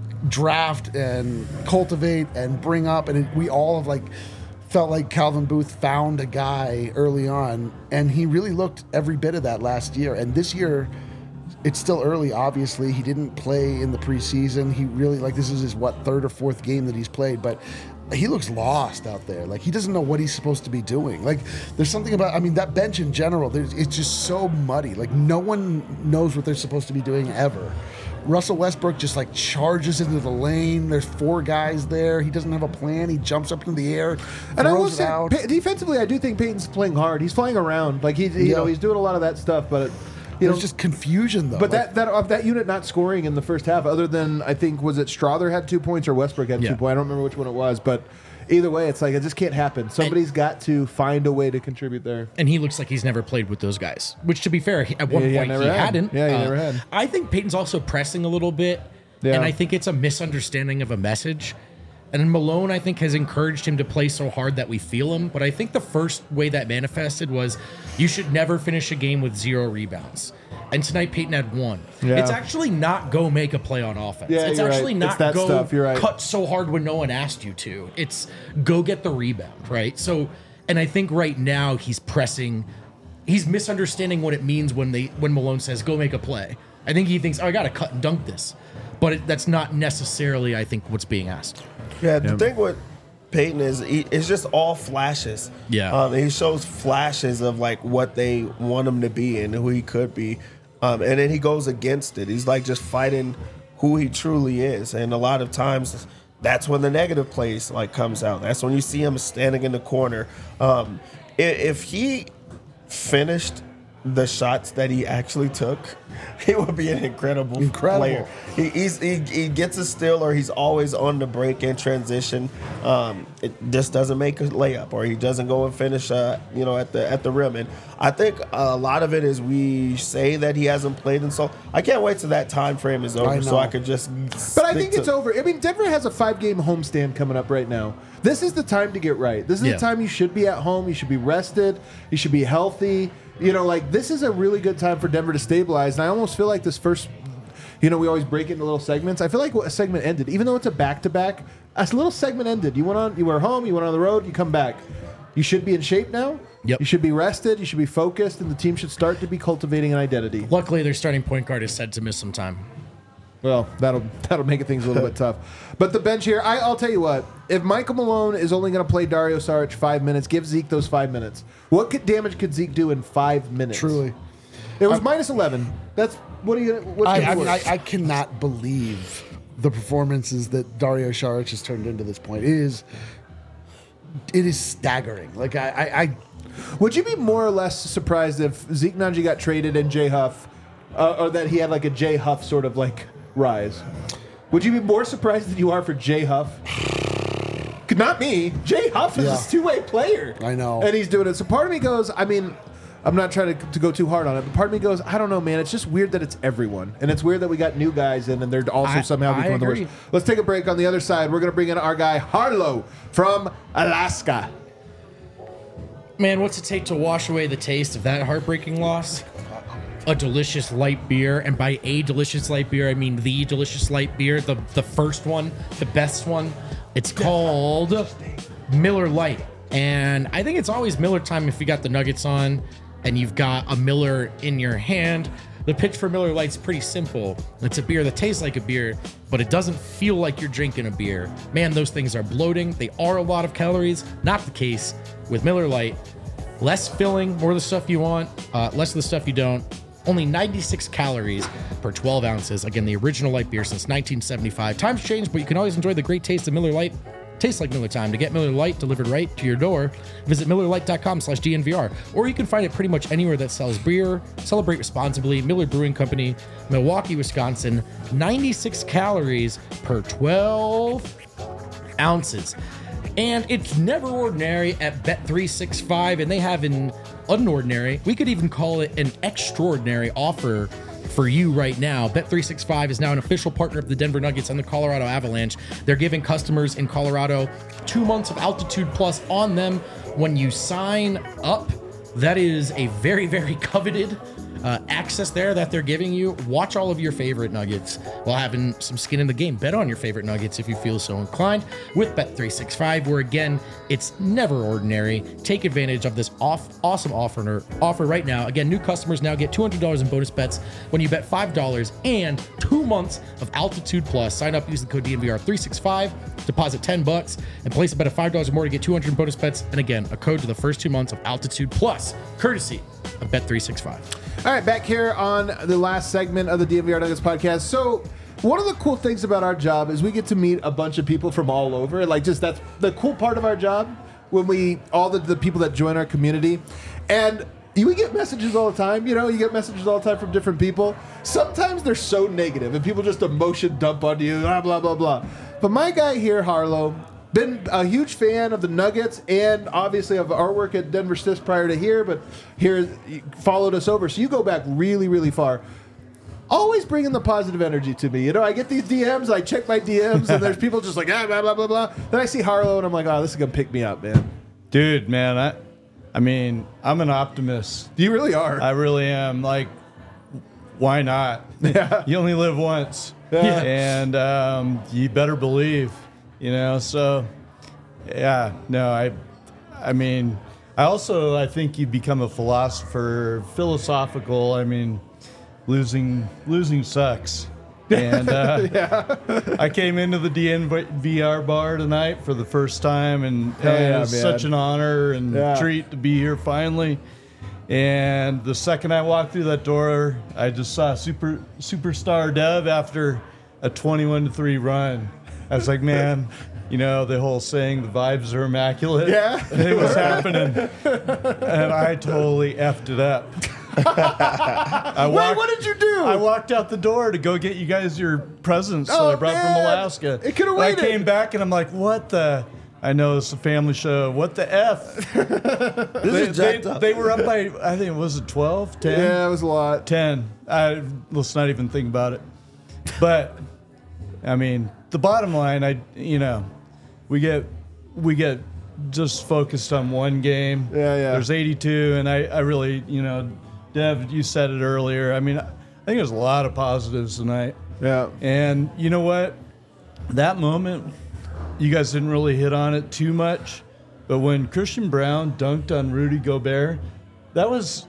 draft and cultivate and bring up. And we all have felt like Calvin Booth found a guy early on, and he really looked every bit of that last year. And this year, it's still early, obviously. He didn't play in the preseason. He really, this is his, third or fourth game that he's played, but he looks lost out there. He doesn't know what he's supposed to be doing. There's something about, that bench in general, it's just so muddy. No one knows what they're supposed to be doing ever. Russell Westbrook just charges into the lane. There's 4 guys there. He doesn't have a plan. He jumps up in the air, and I will throws it out. Defensively, I do think Peyton's playing hard. He's flying around. He's doing a lot of that stuff, but there's just confusion, though. But that unit not scoring in the first half, other than, I think, was it Strawther had 2 points or Westbrook had 2 points? I don't remember which one it was, but either way, it's it just can't happen. Somebody's got to find a way to contribute there. And he looks like he's never played with those guys, which, to be fair, at one point he hadn't. Yeah, he never had. I think Peyton's also pressing a little bit, and I think it's a misunderstanding of a message. And Malone, I think, has encouraged him to play so hard that we feel him. But I think the first way that manifested was you should never finish a game with 0 rebounds. And tonight Peyton had 1. Yeah. It's actually not go make a play on offense. Yeah, it's actually right. not it's that go stuff. You're right. cut so hard when no one asked you to. It's go get the rebound, right? So, and I think right now he's pressing. He's misunderstanding what it means when Malone says go make a play. I think he thinks, I got to cut and dunk this. But that's not necessarily, I think, what's being asked. Yeah, the thing with Peyton is it's just all flashes. Yeah. He shows flashes of what they want him to be and who he could be. And then he goes against it. He's just fighting who he truly is. And a lot of times that's when the negative plays like comes out. That's when you see him standing in the corner. If he finished the shots that he actually took, he would be an incredible player. He gets a steal, or he's always on the break in transition. It just doesn't make a layup, or he doesn't go and finish, at the rim. And I think a lot of it is we say that he hasn't played, and so I can't wait till that time frame is over, so I could just. But I think it's over. I mean, Denver has a 5-game homestand coming up right now. This is the time to get right. This is the time you should be at home. You should be rested. You should be healthy. This is a really good time for Denver to stabilize. And I almost feel like this first, we always break it into little segments. I feel like a segment ended, even though it's a back-to-back. A little segment ended. You were home. You went on the road. You come back. You should be in shape now. Yep. You should be rested. You should be focused, and the team should start to be cultivating an identity. Luckily, their starting point guard is said to miss some time. Well, that'll make things a little bit tough. But the bench here, I'll tell you what. If Michael Malone is only going to play Dario Saric 5 minutes, give Zeke those 5 minutes. What damage could Zeke do in 5 minutes? Truly. It was minus 11. That's what are you? I cannot believe the performances that Dario Saric has turned into this point. It is staggering. Like I would you be more or less surprised if Zeke Nnaji got traded and Jay Huff, or that he had like a Jay Huff sort of like rise? Would you be more surprised than you are for Jay Huff? Not me. Jay Huff is a two-way player. I know. And he's doing it. So part of me goes, I mean, I'm not trying to go too hard on it, but part of me goes, I don't know, man. It's just weird that it's everyone. And it's weird that we got new guys in and they're also somehow becoming the worst. Let's take a break. On the other side, we're going to bring in our guy, Harlow, from Alaska. Man, what's it take to wash away the taste of that heartbreaking loss? A delicious light beer, and by a delicious light beer, I mean the delicious light beer, the first one, the best one. It's called Miller Lite, and I think it's always Miller time if you got the Nuggets on and you've got a Miller in your hand. The pitch for Miller Lite's pretty simple. It's a beer that tastes like a beer, but it doesn't feel like you're drinking a beer. Man, those things are bloating. They are a lot of calories. Not the case with Miller Lite. Less filling, more of the stuff you want, less of the stuff you don't. Only 96 calories per 12 ounces. Again, the original light beer since 1975. Times change, but you can always enjoy the great taste of Miller Lite. Tastes like Miller time. To get Miller Lite delivered right to your door, visit MillerLite.com/DNVR. Or you can find it pretty much anywhere that sells beer. Celebrate responsibly. Miller Brewing Company, Milwaukee, Wisconsin. 96 calories per 12 ounces. And it's never ordinary at Bet365, and they have an unordinary, we could even call it an extraordinary offer for you right now. Bet365 is now an official partner of the Denver Nuggets and the Colorado Avalanche. They're giving customers in Colorado 2 months of Altitude Plus on them when you sign up. That is a very, very coveted access there that they're giving you. Watch all of your favorite Nuggets while having some skin in the game. Bet on your favorite Nuggets if you feel so inclined with Bet365, where again, it's never ordinary. Take advantage of this awesome offer right now. Again, new customers now get $200 in bonus bets when you bet $5 and 2 months of Altitude Plus. Sign up using the code DNVR365, deposit $10 and place a bet of $5 or more to get 200 in bonus bets. And again, a code to the first 2 months of Altitude Plus, courtesy of Bet365. All right, back here on the last segment of the DNVR Nuggets podcast. So one of the cool things about our job is we get to meet a bunch of people from all over. Like, just that's the cool part of our job, when all the people that join our community. And we get messages all the time. You get messages all the time from different people. Sometimes they're so negative and people just emotion dump on you, blah, blah, blah, blah. But my guy here, Harlow, been a huge fan of the Nuggets and obviously of our work at Denver Stiffs prior to here, but here followed us over. So you go back really, really far. Always bringing the positive energy to me. I get these DMs, I check my DMs, and there's people just like, blah, blah, blah, blah. Then I see Harlow, and I'm like, oh, this is going to pick me up, man. Dude, man, I mean, I'm an optimist. You really are. I really am. Like, why not? Yeah. You only live once. Yeah. And you better believe. So yeah, no, I mean, I think you become a philosophical. I mean, losing sucks. And I came into the DNVR bar tonight for the first time, and it was such an honor and treat to be here finally. And the second I walked through that door, I just saw superstar Dev after a 21-3 run. I was like, man, the whole saying, the vibes are immaculate. Yeah. It was happening. And I totally effed it up. Wait, what did you do? I walked out the door to go get you guys your presents that I brought from man. Alaska. It could've And I waited. came back and I'm like, what the? I know it's a family show. What the F? This is jacked up. They were up by, I think, was it 12, 10? Yeah, it was a lot. 10. Let's not even think about it. But, I mean, the bottom line, we get just focused on one game. Yeah. There's 82, and I really, Dev, you said it earlier. I mean, I think there's a lot of positives tonight. Yeah. And you know what? That moment, you guys didn't really hit on it too much, but when Christian Brown dunked on Rudy Gobert, that was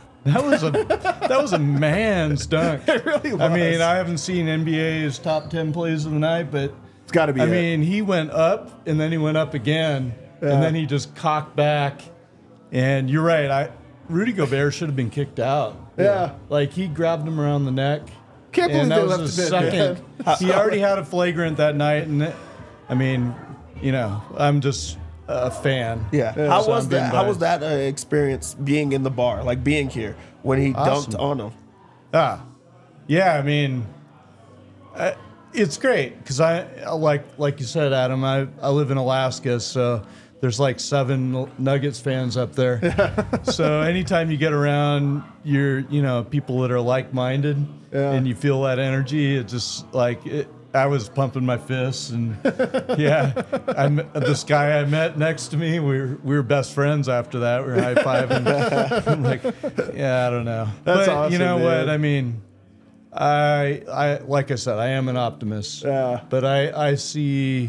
a man's dunk. It really was. I mean, I haven't seen NBA's top 10 plays of the night, but It's got to be I mean, he went up and then he went up again, and then he just cocked back. And you're right, Rudy Gobert should have been kicked out. Yeah. Like, he grabbed him around the neck. Can't believe And they that was left his him in, second. He already had a flagrant that night, and I mean, I'm just a fan. Yeah. So How was I'm being that? How was biased. that experience being in the bar, like being here when he Awesome. dunked on him? Yeah. I mean, it's great because I like you said, Adam. I live in Alaska, so there's like 7 Nuggets fans up there. So anytime you get around people that are like-minded, and you feel that energy, it just I was pumping my fists, and this guy I met next to me, we were best friends after that. We were high-fiving. I'm like, I don't know. That's but awesome, you know man. what? I mean, I like I said, I am an optimist. Yeah. But I see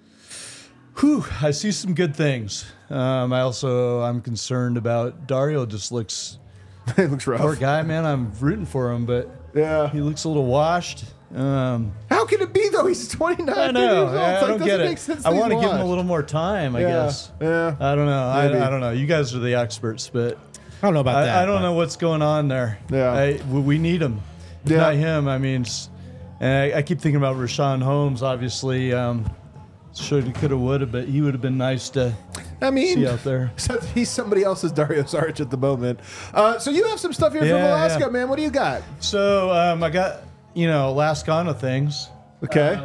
some good things. I'm concerned about Dario. Just looks, It looks rough. poor guy, man. I'm rooting for him, but Yeah. he looks a little washed. How can it be though? He's 29. I know. Years old. I It's like, don't doesn't get make it. sense I that want to he's give him a washed. little more time, I Yeah. guess. Yeah. I don't know. Maybe. I don't know. You guys are the experts, but I don't know about that. I don't but- know what's going on there. Yeah. We need him. If Yeah. not him, I mean, and I keep thinking about Rashawn Holmes, obviously. Should have, could have, would have, but he would have been nice to I mean, see out there. so he's somebody else's Dario Saric at the moment. So you have some stuff here from Yeah, Alaska, yeah. man. What do you got? So I got, Alaskana things. Okay.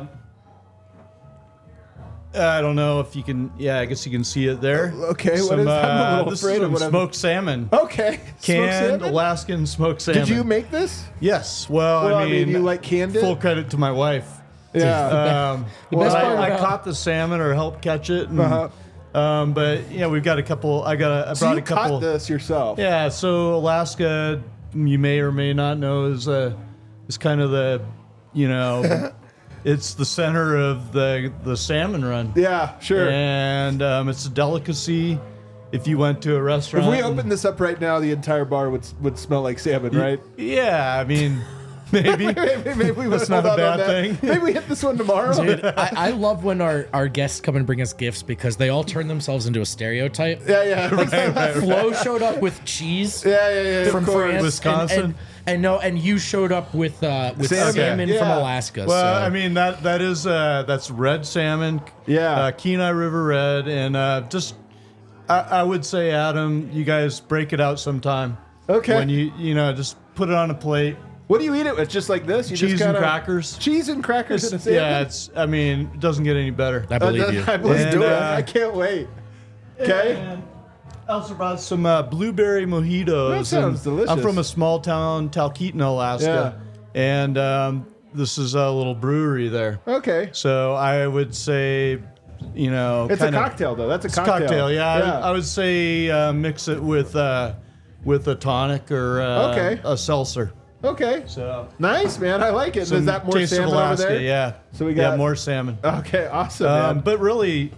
I don't know if you can. Yeah, I guess you can see it there. Okay, what is that? I'm a little this afraid is of what I'm- smoked salmon. Okay. Smoked Canned salmon? Alaskan smoked salmon. Did you make this? Yes. Well, Well, I mean, you like canned it? full credit to my wife. Yeah. The best part I about- caught the salmon or helped catch it. And, Uh-huh. but we've got a couple. I So brought you a couple. caught this yourself. Yeah. So Alaska, you may or may not know, is kind of the, it's the center of the salmon run. Yeah, sure. And it's a delicacy. If you went to a restaurant, If we opened this up right now, the entire bar would smell like salmon, right? Yeah, I mean, maybe. Maybe we That's would not a hold out on bad that. thing. Maybe we hit this one tomorrow. Dude, I love when our guests come and bring us gifts because they all turn themselves into a stereotype. Yeah. Flo showed up with cheese Yeah. from of course. France, Wisconsin. and you showed up with salmon Yeah. from Alaska. Well, so. I mean that's red salmon. Yeah. Kenai River red, and I would say, Adam, you guys break it out sometime. Okay. When you just put it on a plate. What do you eat it with? Just like this? You Cheese just and kinda- crackers. Cheese and crackers and a salmon? It doesn't get any better. I believe you. I believe And, it. uh, I can't wait. Okay. And I also brought some blueberry mojitos. That sounds and delicious. I'm from a small town, Talkeetna, Alaska. And this is a little brewery there. Okay. So I would say, It's a cocktail, though. That's a cocktail. Yeah. I would say mix it with a tonic or Okay. a seltzer. Okay. So Nice, man. I like it. Is some that more taste of salmon Alaska, over there? yeah. So we got- more salmon. Okay, awesome, man. But really,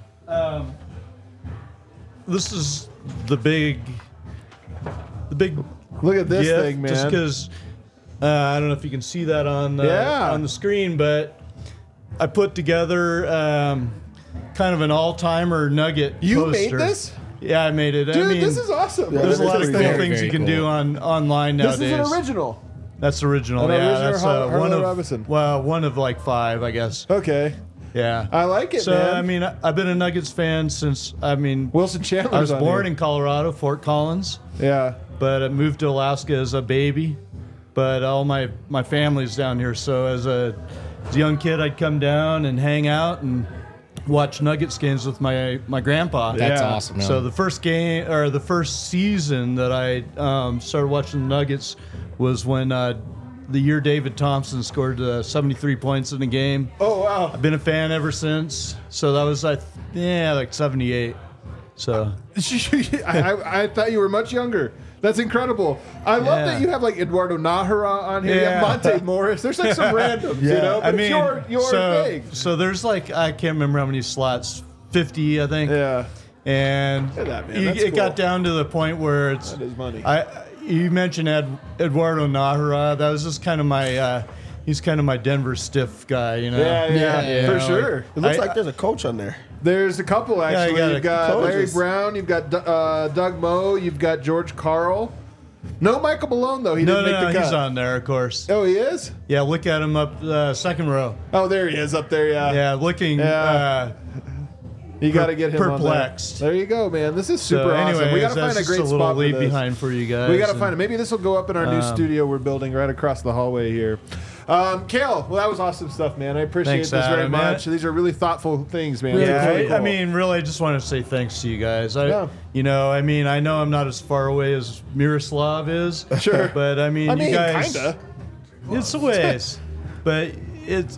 this is the big Look at this gift, thing, man. just because I don't know if you can see that on the screen, but I put together kind of an all-timer nugget You poster. made this? Yeah, I made it. Dude, I mean, this is awesome. there's a lot of cool Very, things very you can cool. do online This nowadays. is an original. That's original. An Yeah, original that's Harley one of Robinson. well, one of like 5, I guess. Okay. Yeah. I like it, So, man. I mean, I've been a Nuggets fan since, Wilson Chandler. I was born in Colorado, Fort Collins, Yeah. but I moved to Alaska as a baby. But all my family's down here. So as a young kid, I'd come down and hang out and watch Nuggets games with my grandpa. That's Yeah. awesome. Man. So the first season that I started watching the Nuggets was when the year David Thompson scored 73 points in a game. Oh, wow. I've been a fan ever since. So that was like 78. So I thought you were much younger. That's incredible. I love Yeah. that you have like Eduardo Nahara on here. You Yeah. have Monte Morris. There's like some randoms, you know? But it's your thing. So there's like, I can't remember how many slots, 50, I think. Yeah. And Look at that, man. That's it cool. got down to the point where it's. That is money. You mentioned Eduardo Nahara. That was just kind of my. He's kind of my Denver stiff guy, you know. Yeah, for know, sure. It looks I- like there's a coach on there. There's a couple actually. got You've got Larry coaches. Brown. You've got Doug Moe. You've got George Karl. No Michael Malone though. He No, didn't make the cut. he's on there, of course. Oh, he is. Yeah, look at him up second row. Oh, there he is up there. Yeah. Yeah, looking. Yeah. You got to get him perplexed. on there. There you go, man. This is super So, awesome. We anyways, got to find that's a great just a little spot for leave this. behind for you guys. We got to and- find it. Maybe this will go up in our new studio we're building right across the hallway here. Kale, well, that was awesome stuff, man. I appreciate Thanks, this very Adam, man. much. These are really thoughtful things, man. Yeah, It's really I cool. mean, really, I just want to say thanks to you guys. Yeah. I mean, I know I'm not as far away as Miroslav is. Sure. But I mean, you guys. kinda. It's a ways, but it's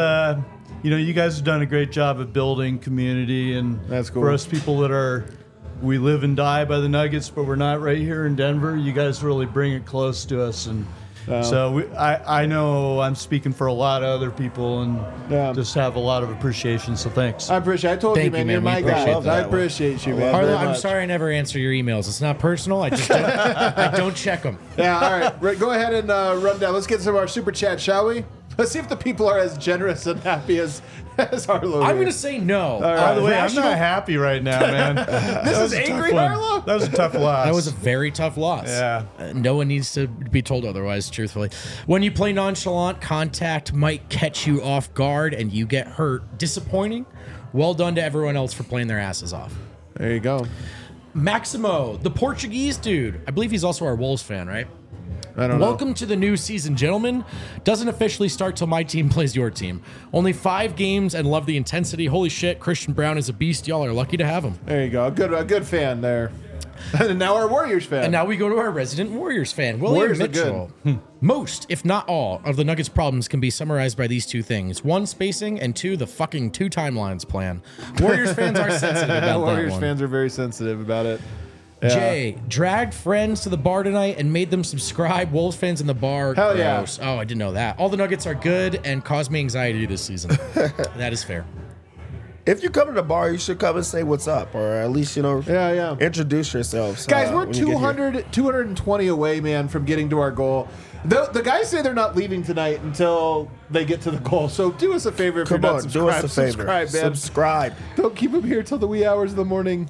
you guys have done a great job of building community, and That's cool. for us people that we live and die by the Nuggets, but we're not right here in Denver. You guys really bring it close to us, and so I know I'm speaking for a lot of other people, and just have a lot of appreciation. So thanks. I appreciate. I told Thank you, man. you, You're man. my We guy. appreciate I that. appreciate you, man. Harlow, very I'm much. sorry I never answer your emails. It's not personal. I just don't, I don't check them. Yeah, all right. Right, go ahead and run down. Let's get some of our super chat, shall we? Let's see if the people are as generous and happy as Harlow. I'm here. going to say no. By the way, I'm Rational- not happy right now, man. This is angry, Harlow? That was a tough loss. That was a very tough loss. Yeah. No one needs to be told otherwise, truthfully. When you play nonchalant, contact might catch you off guard and you get hurt. Disappointing. Well done to everyone else for playing their asses off. There you go. Maximo, the Portuguese dude. I believe he's also our Wolves fan, right? I don't know. Welcome to the new season, gentlemen. Doesn't officially start till my team plays your team. Only 5 games and love the intensity. Holy shit, Christian Brown is a beast. Y'all are lucky to have him. There you go. A good fan there. And now our Warriors fan. And now we go to our resident Warriors fan, William Warriors are Mitchell. Most, if not all, of the Nuggets' problems can be summarized by these 2 things. 1, spacing, and 2, the fucking 2 timelines plan. Warriors fans are sensitive about Warriors that one. fans are very sensitive about it. Yeah. Jay, dragged friends to the bar tonight and made them subscribe. Wolves fans in the bar. Hell yeah. Gross. Oh, I didn't know that. All the Nuggets are good and cause me anxiety this season. That is fair. If you come to the bar, you should come and say what's up, or at least Yeah. introduce yourselves. Guys, we're when you get here. 220 away, man, from getting to our goal. The guys say they're not leaving tonight until they get to the goal. So do us a favor if Come you're on, not do subscribed. us a favor. Subscribe, man. Subscribe. Don't keep them here till the wee hours of the morning.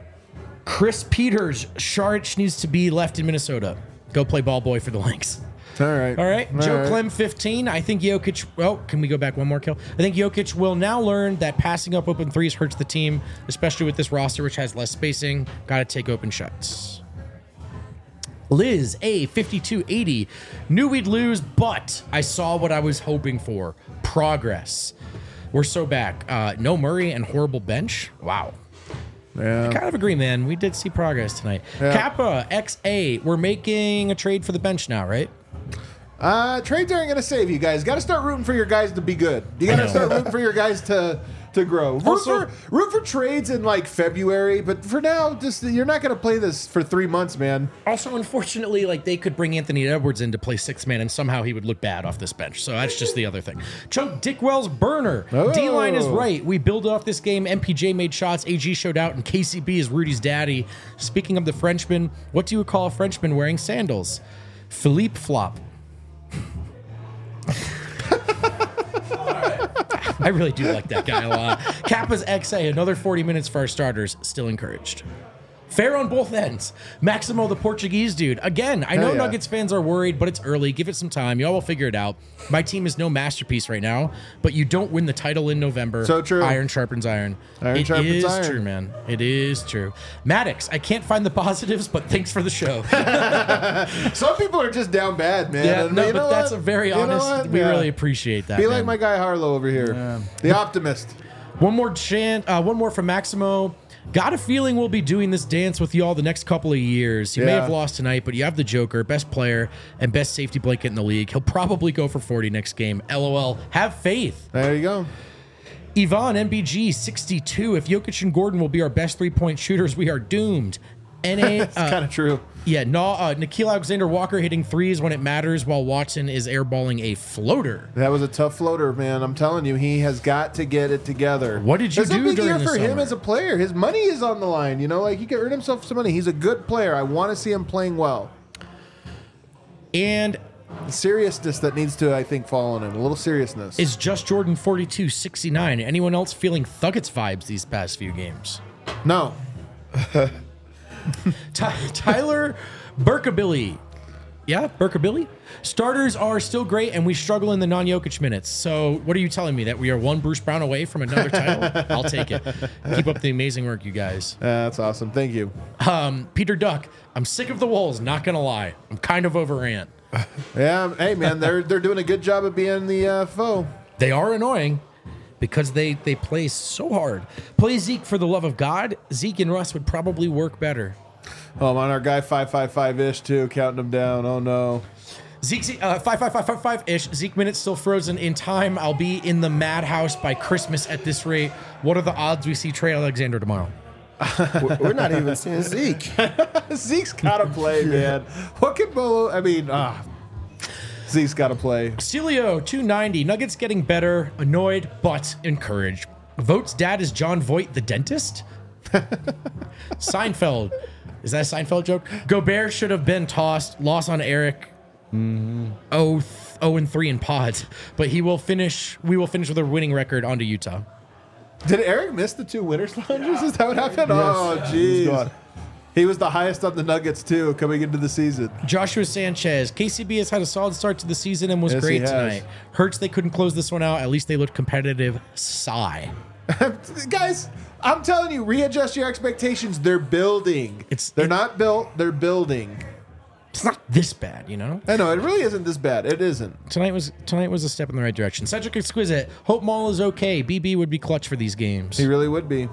Chris Peters, Sharich needs to be left in Minnesota. Go play ball boy for the Lynx. All right. All right. Joe Clem 15. I think Jokic. Oh, can we go back one more kill? I think Jokic will now learn that passing up open threes hurts the team, especially with this roster, which has less spacing. Got to take open shots. Liz A 5280 knew we'd lose, but I saw what I was hoping for. Progress. We're so back. No Murray and horrible bench. Wow. Yeah. Kind of agree, man. We did see progress tonight. Yeah. Kappa XA. We're making a trade for the bench now, right? Trades aren't going to save you guys. Got to start rooting for your guys to be good. You got to start rooting for your guys to grow. Root for trades in like February, but for now, just you're not going to play this for 3 months, man. Also, unfortunately, like they could bring Anthony Edwards in to play 6th man, and somehow he would look bad off this bench. So that's just the other thing. Chunk Dickwell's burner. Oh. D-line is right. We build off this game. MPJ made shots. AG showed out, and KCB is Rudy's daddy. Speaking of the Frenchman, what do you call a Frenchman wearing sandals? Philippe Flop. I really do like that guy a lot. Kappa's XA, another 40 minutes for our starters. Still encouraged. Fair on both ends. Maximo, the Portuguese dude. Again, I know yeah. Nuggets fans are worried, but it's early. Give it some time. Y'all will figure it out. My team is no masterpiece right now, but you don't win the title in November. So true. Iron sharpens iron. Iron It sharpens is iron. true, man. It is true. Maddox, I can't find the positives, but thanks for the show. Some people are just down bad, man. Yeah, And no, you but know that's what? a very You know honest. what? We Yeah. really appreciate that. Be man. like my guy Harlow over here, the optimist. One more from Maximo. Got a feeling we'll be doing this dance with y'all the next couple of years. He may Yeah. have lost tonight, but you have the Joker, best player, and best safety blanket in the league. He'll probably go for 40 next game. LOL. Have faith. There you go. Yvonne, MBG, 62. If Jokic and Gordon will be our best three-point shooters, we are doomed. NA, It's kind of true. yeah, no, Nikhil Alexander-Walker hitting threes when it matters while Watson is airballing a floater. That was a tough floater, man. I'm telling you, he has got to get it together. What did you It's do a big during year the for him summer? as a player. His money is on the line. You know, like he could earn himself some money. He's a good player. I want to see him playing well. And The seriousness that needs to, I think, fall on him. A little seriousness. is Just Jordan 42-69. Anyone else feeling Thuggets vibes these past few games? No. Tyler Burkabilly. Yeah, Burkabilly? Starters are still great, and we struggle in the non-Jokic minutes. So what are you telling me, that we are one Bruce Brown away from another title? I'll take it. Keep up the amazing work, you guys. That's awesome. Thank you. Peter Duck, I'm sick of the Wolves, not going to lie. I'm kind of over Ant. Yeah. Hey, man, they're doing a good job of being the foe. They are annoying because they play so hard. Play Zeke for the love of God. Zeke and Russ would probably work better. Oh, I'm on our guy 555-ish, too, counting him down. Oh, no. Zeke, 5-5-5-5-5-ish. Zeke minutes still frozen in time. I'll be in the madhouse by Christmas at this rate. What are the odds we see Trey Alexander tomorrow? We're not even seeing Zeke. Zeke's got to play, man. What can Bolo... I mean, Zeke's got to play. Celio, 290. Nuggets getting better. Annoyed, but encouraged. Vote's dad is John Voight, the dentist? Seinfeld. Is that a Seinfeld joke? Gobert should have been tossed. Loss on Eric. 0-3 in pods. But we will finish with a winning record onto Utah. Did Eric miss the 2 winners lounges? Is that what happened? Oh, He's jeez. gone. He was the highest on the Nuggets, too, coming into the season. Joshua Sanchez. KCB has had a solid start to the season and was Yes, he great has. tonight. Hurts they couldn't close this one out. At least they looked competitive. Sigh. Guys, I'm telling you, readjust your expectations. They're building. They're not built, they're building. It's not this bad, you know? I know, it really isn't this bad. It isn't. Tonight was a step in the right direction. Cedric Exquisite. Hope Maul is okay. BB would be clutch for these games. He really would be.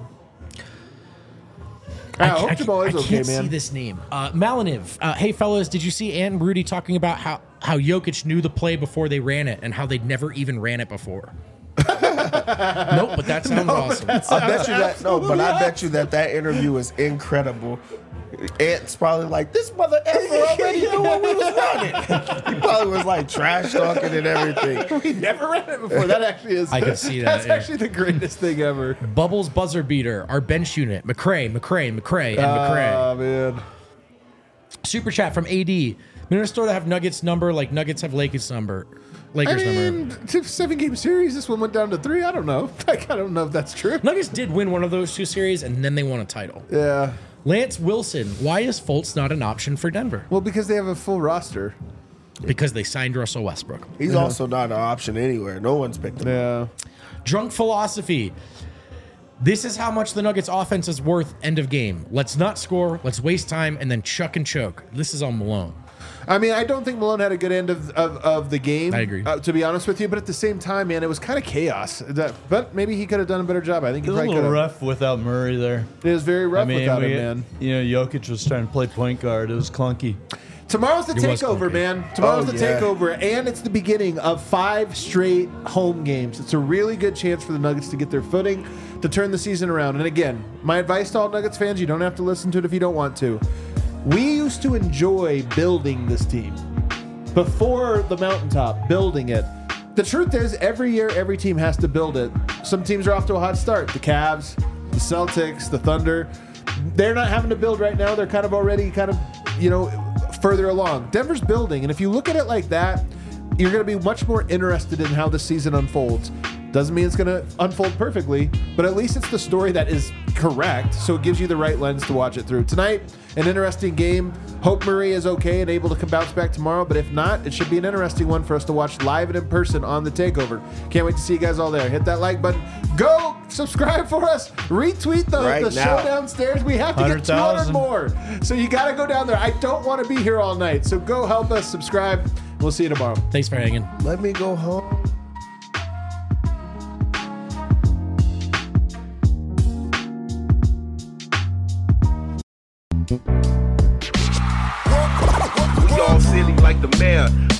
I hope Jamal is okay, can't see man. this name. Maliniv. Hey, fellas, did you see Ant and Rudy talking about how Jokic knew the play before they ran it and how they'd never even ran it before? Nope, but that sounds awesome. I bet you that. No, but I bet you that interview is incredible. Ant's probably like, this mother effer already knew what we was running. He probably was like trash talking and everything. We never ran it before. That actually is. I can see that, That's yeah. actually the greatest thing ever. Bubbles buzzer beater. Our bench unit. McCray, and McCray. Oh, man. Super chat from AD. Minnesota have Nuggets number like Nuggets have Lakers number. I Lakers number. mean, 7-game series. This one went down to 3. I don't know. I don't know if that's true. Nuggets did win one of those 2 series, and then they won a title. Yeah. Lance Wilson. Why is Fultz not an option for Denver? Well, because they have a full roster. Because they signed Russell Westbrook. He's also not an option anywhere. No one's picked him. Yeah. Drunk philosophy. This is how much the Nuggets offense is worth end of game. Let's not score. Let's waste time and then chuck and choke. This is on Malone. I mean, I don't think Malone had a good end of the game. I agree. To be honest with you, but at the same time, man, it was kind of chaos. But maybe he could have done a better job. I think It he was a probably little could have. rough without Murray there. It was very rough I mean, without him, man. You know, Jokic was trying to play point guard. It was clunky. Tomorrow's the It was takeover, clunky. man. Tomorrow's Oh, the yeah. takeover, and it's the beginning of 5 straight home games. It's a really good chance for the Nuggets to get their footing, to turn the season around. And again, my advice to all Nuggets fans, you don't have to listen to it if you don't want to. We used to enjoy building this team. Before the mountaintop, building it. The truth is, every year, every team has to build it. Some teams are off to a hot start. The Cavs, the Celtics, the Thunder. They're not having to build right now. They're kind of already further along. Denver's building, and if you look at it like that, you're going to be much more interested in how the season unfolds. Doesn't mean it's going to unfold perfectly, but at least it's the story that is correct, so it gives you the right lens to watch it through. Tonight, an interesting game. Hope Murray is okay and able to bounce back tomorrow, but if not, it should be an interesting one for us to watch live and in person on the TakeOver. Can't wait to see you guys all there. Hit that like button. Go subscribe for us. Retweet the show downstairs. We have to get 200 more. So you got to go down there. I don't want to be here all night. So go help us subscribe. We'll see you tomorrow. Thanks for hanging. Let me go home. We all silly like the mayor.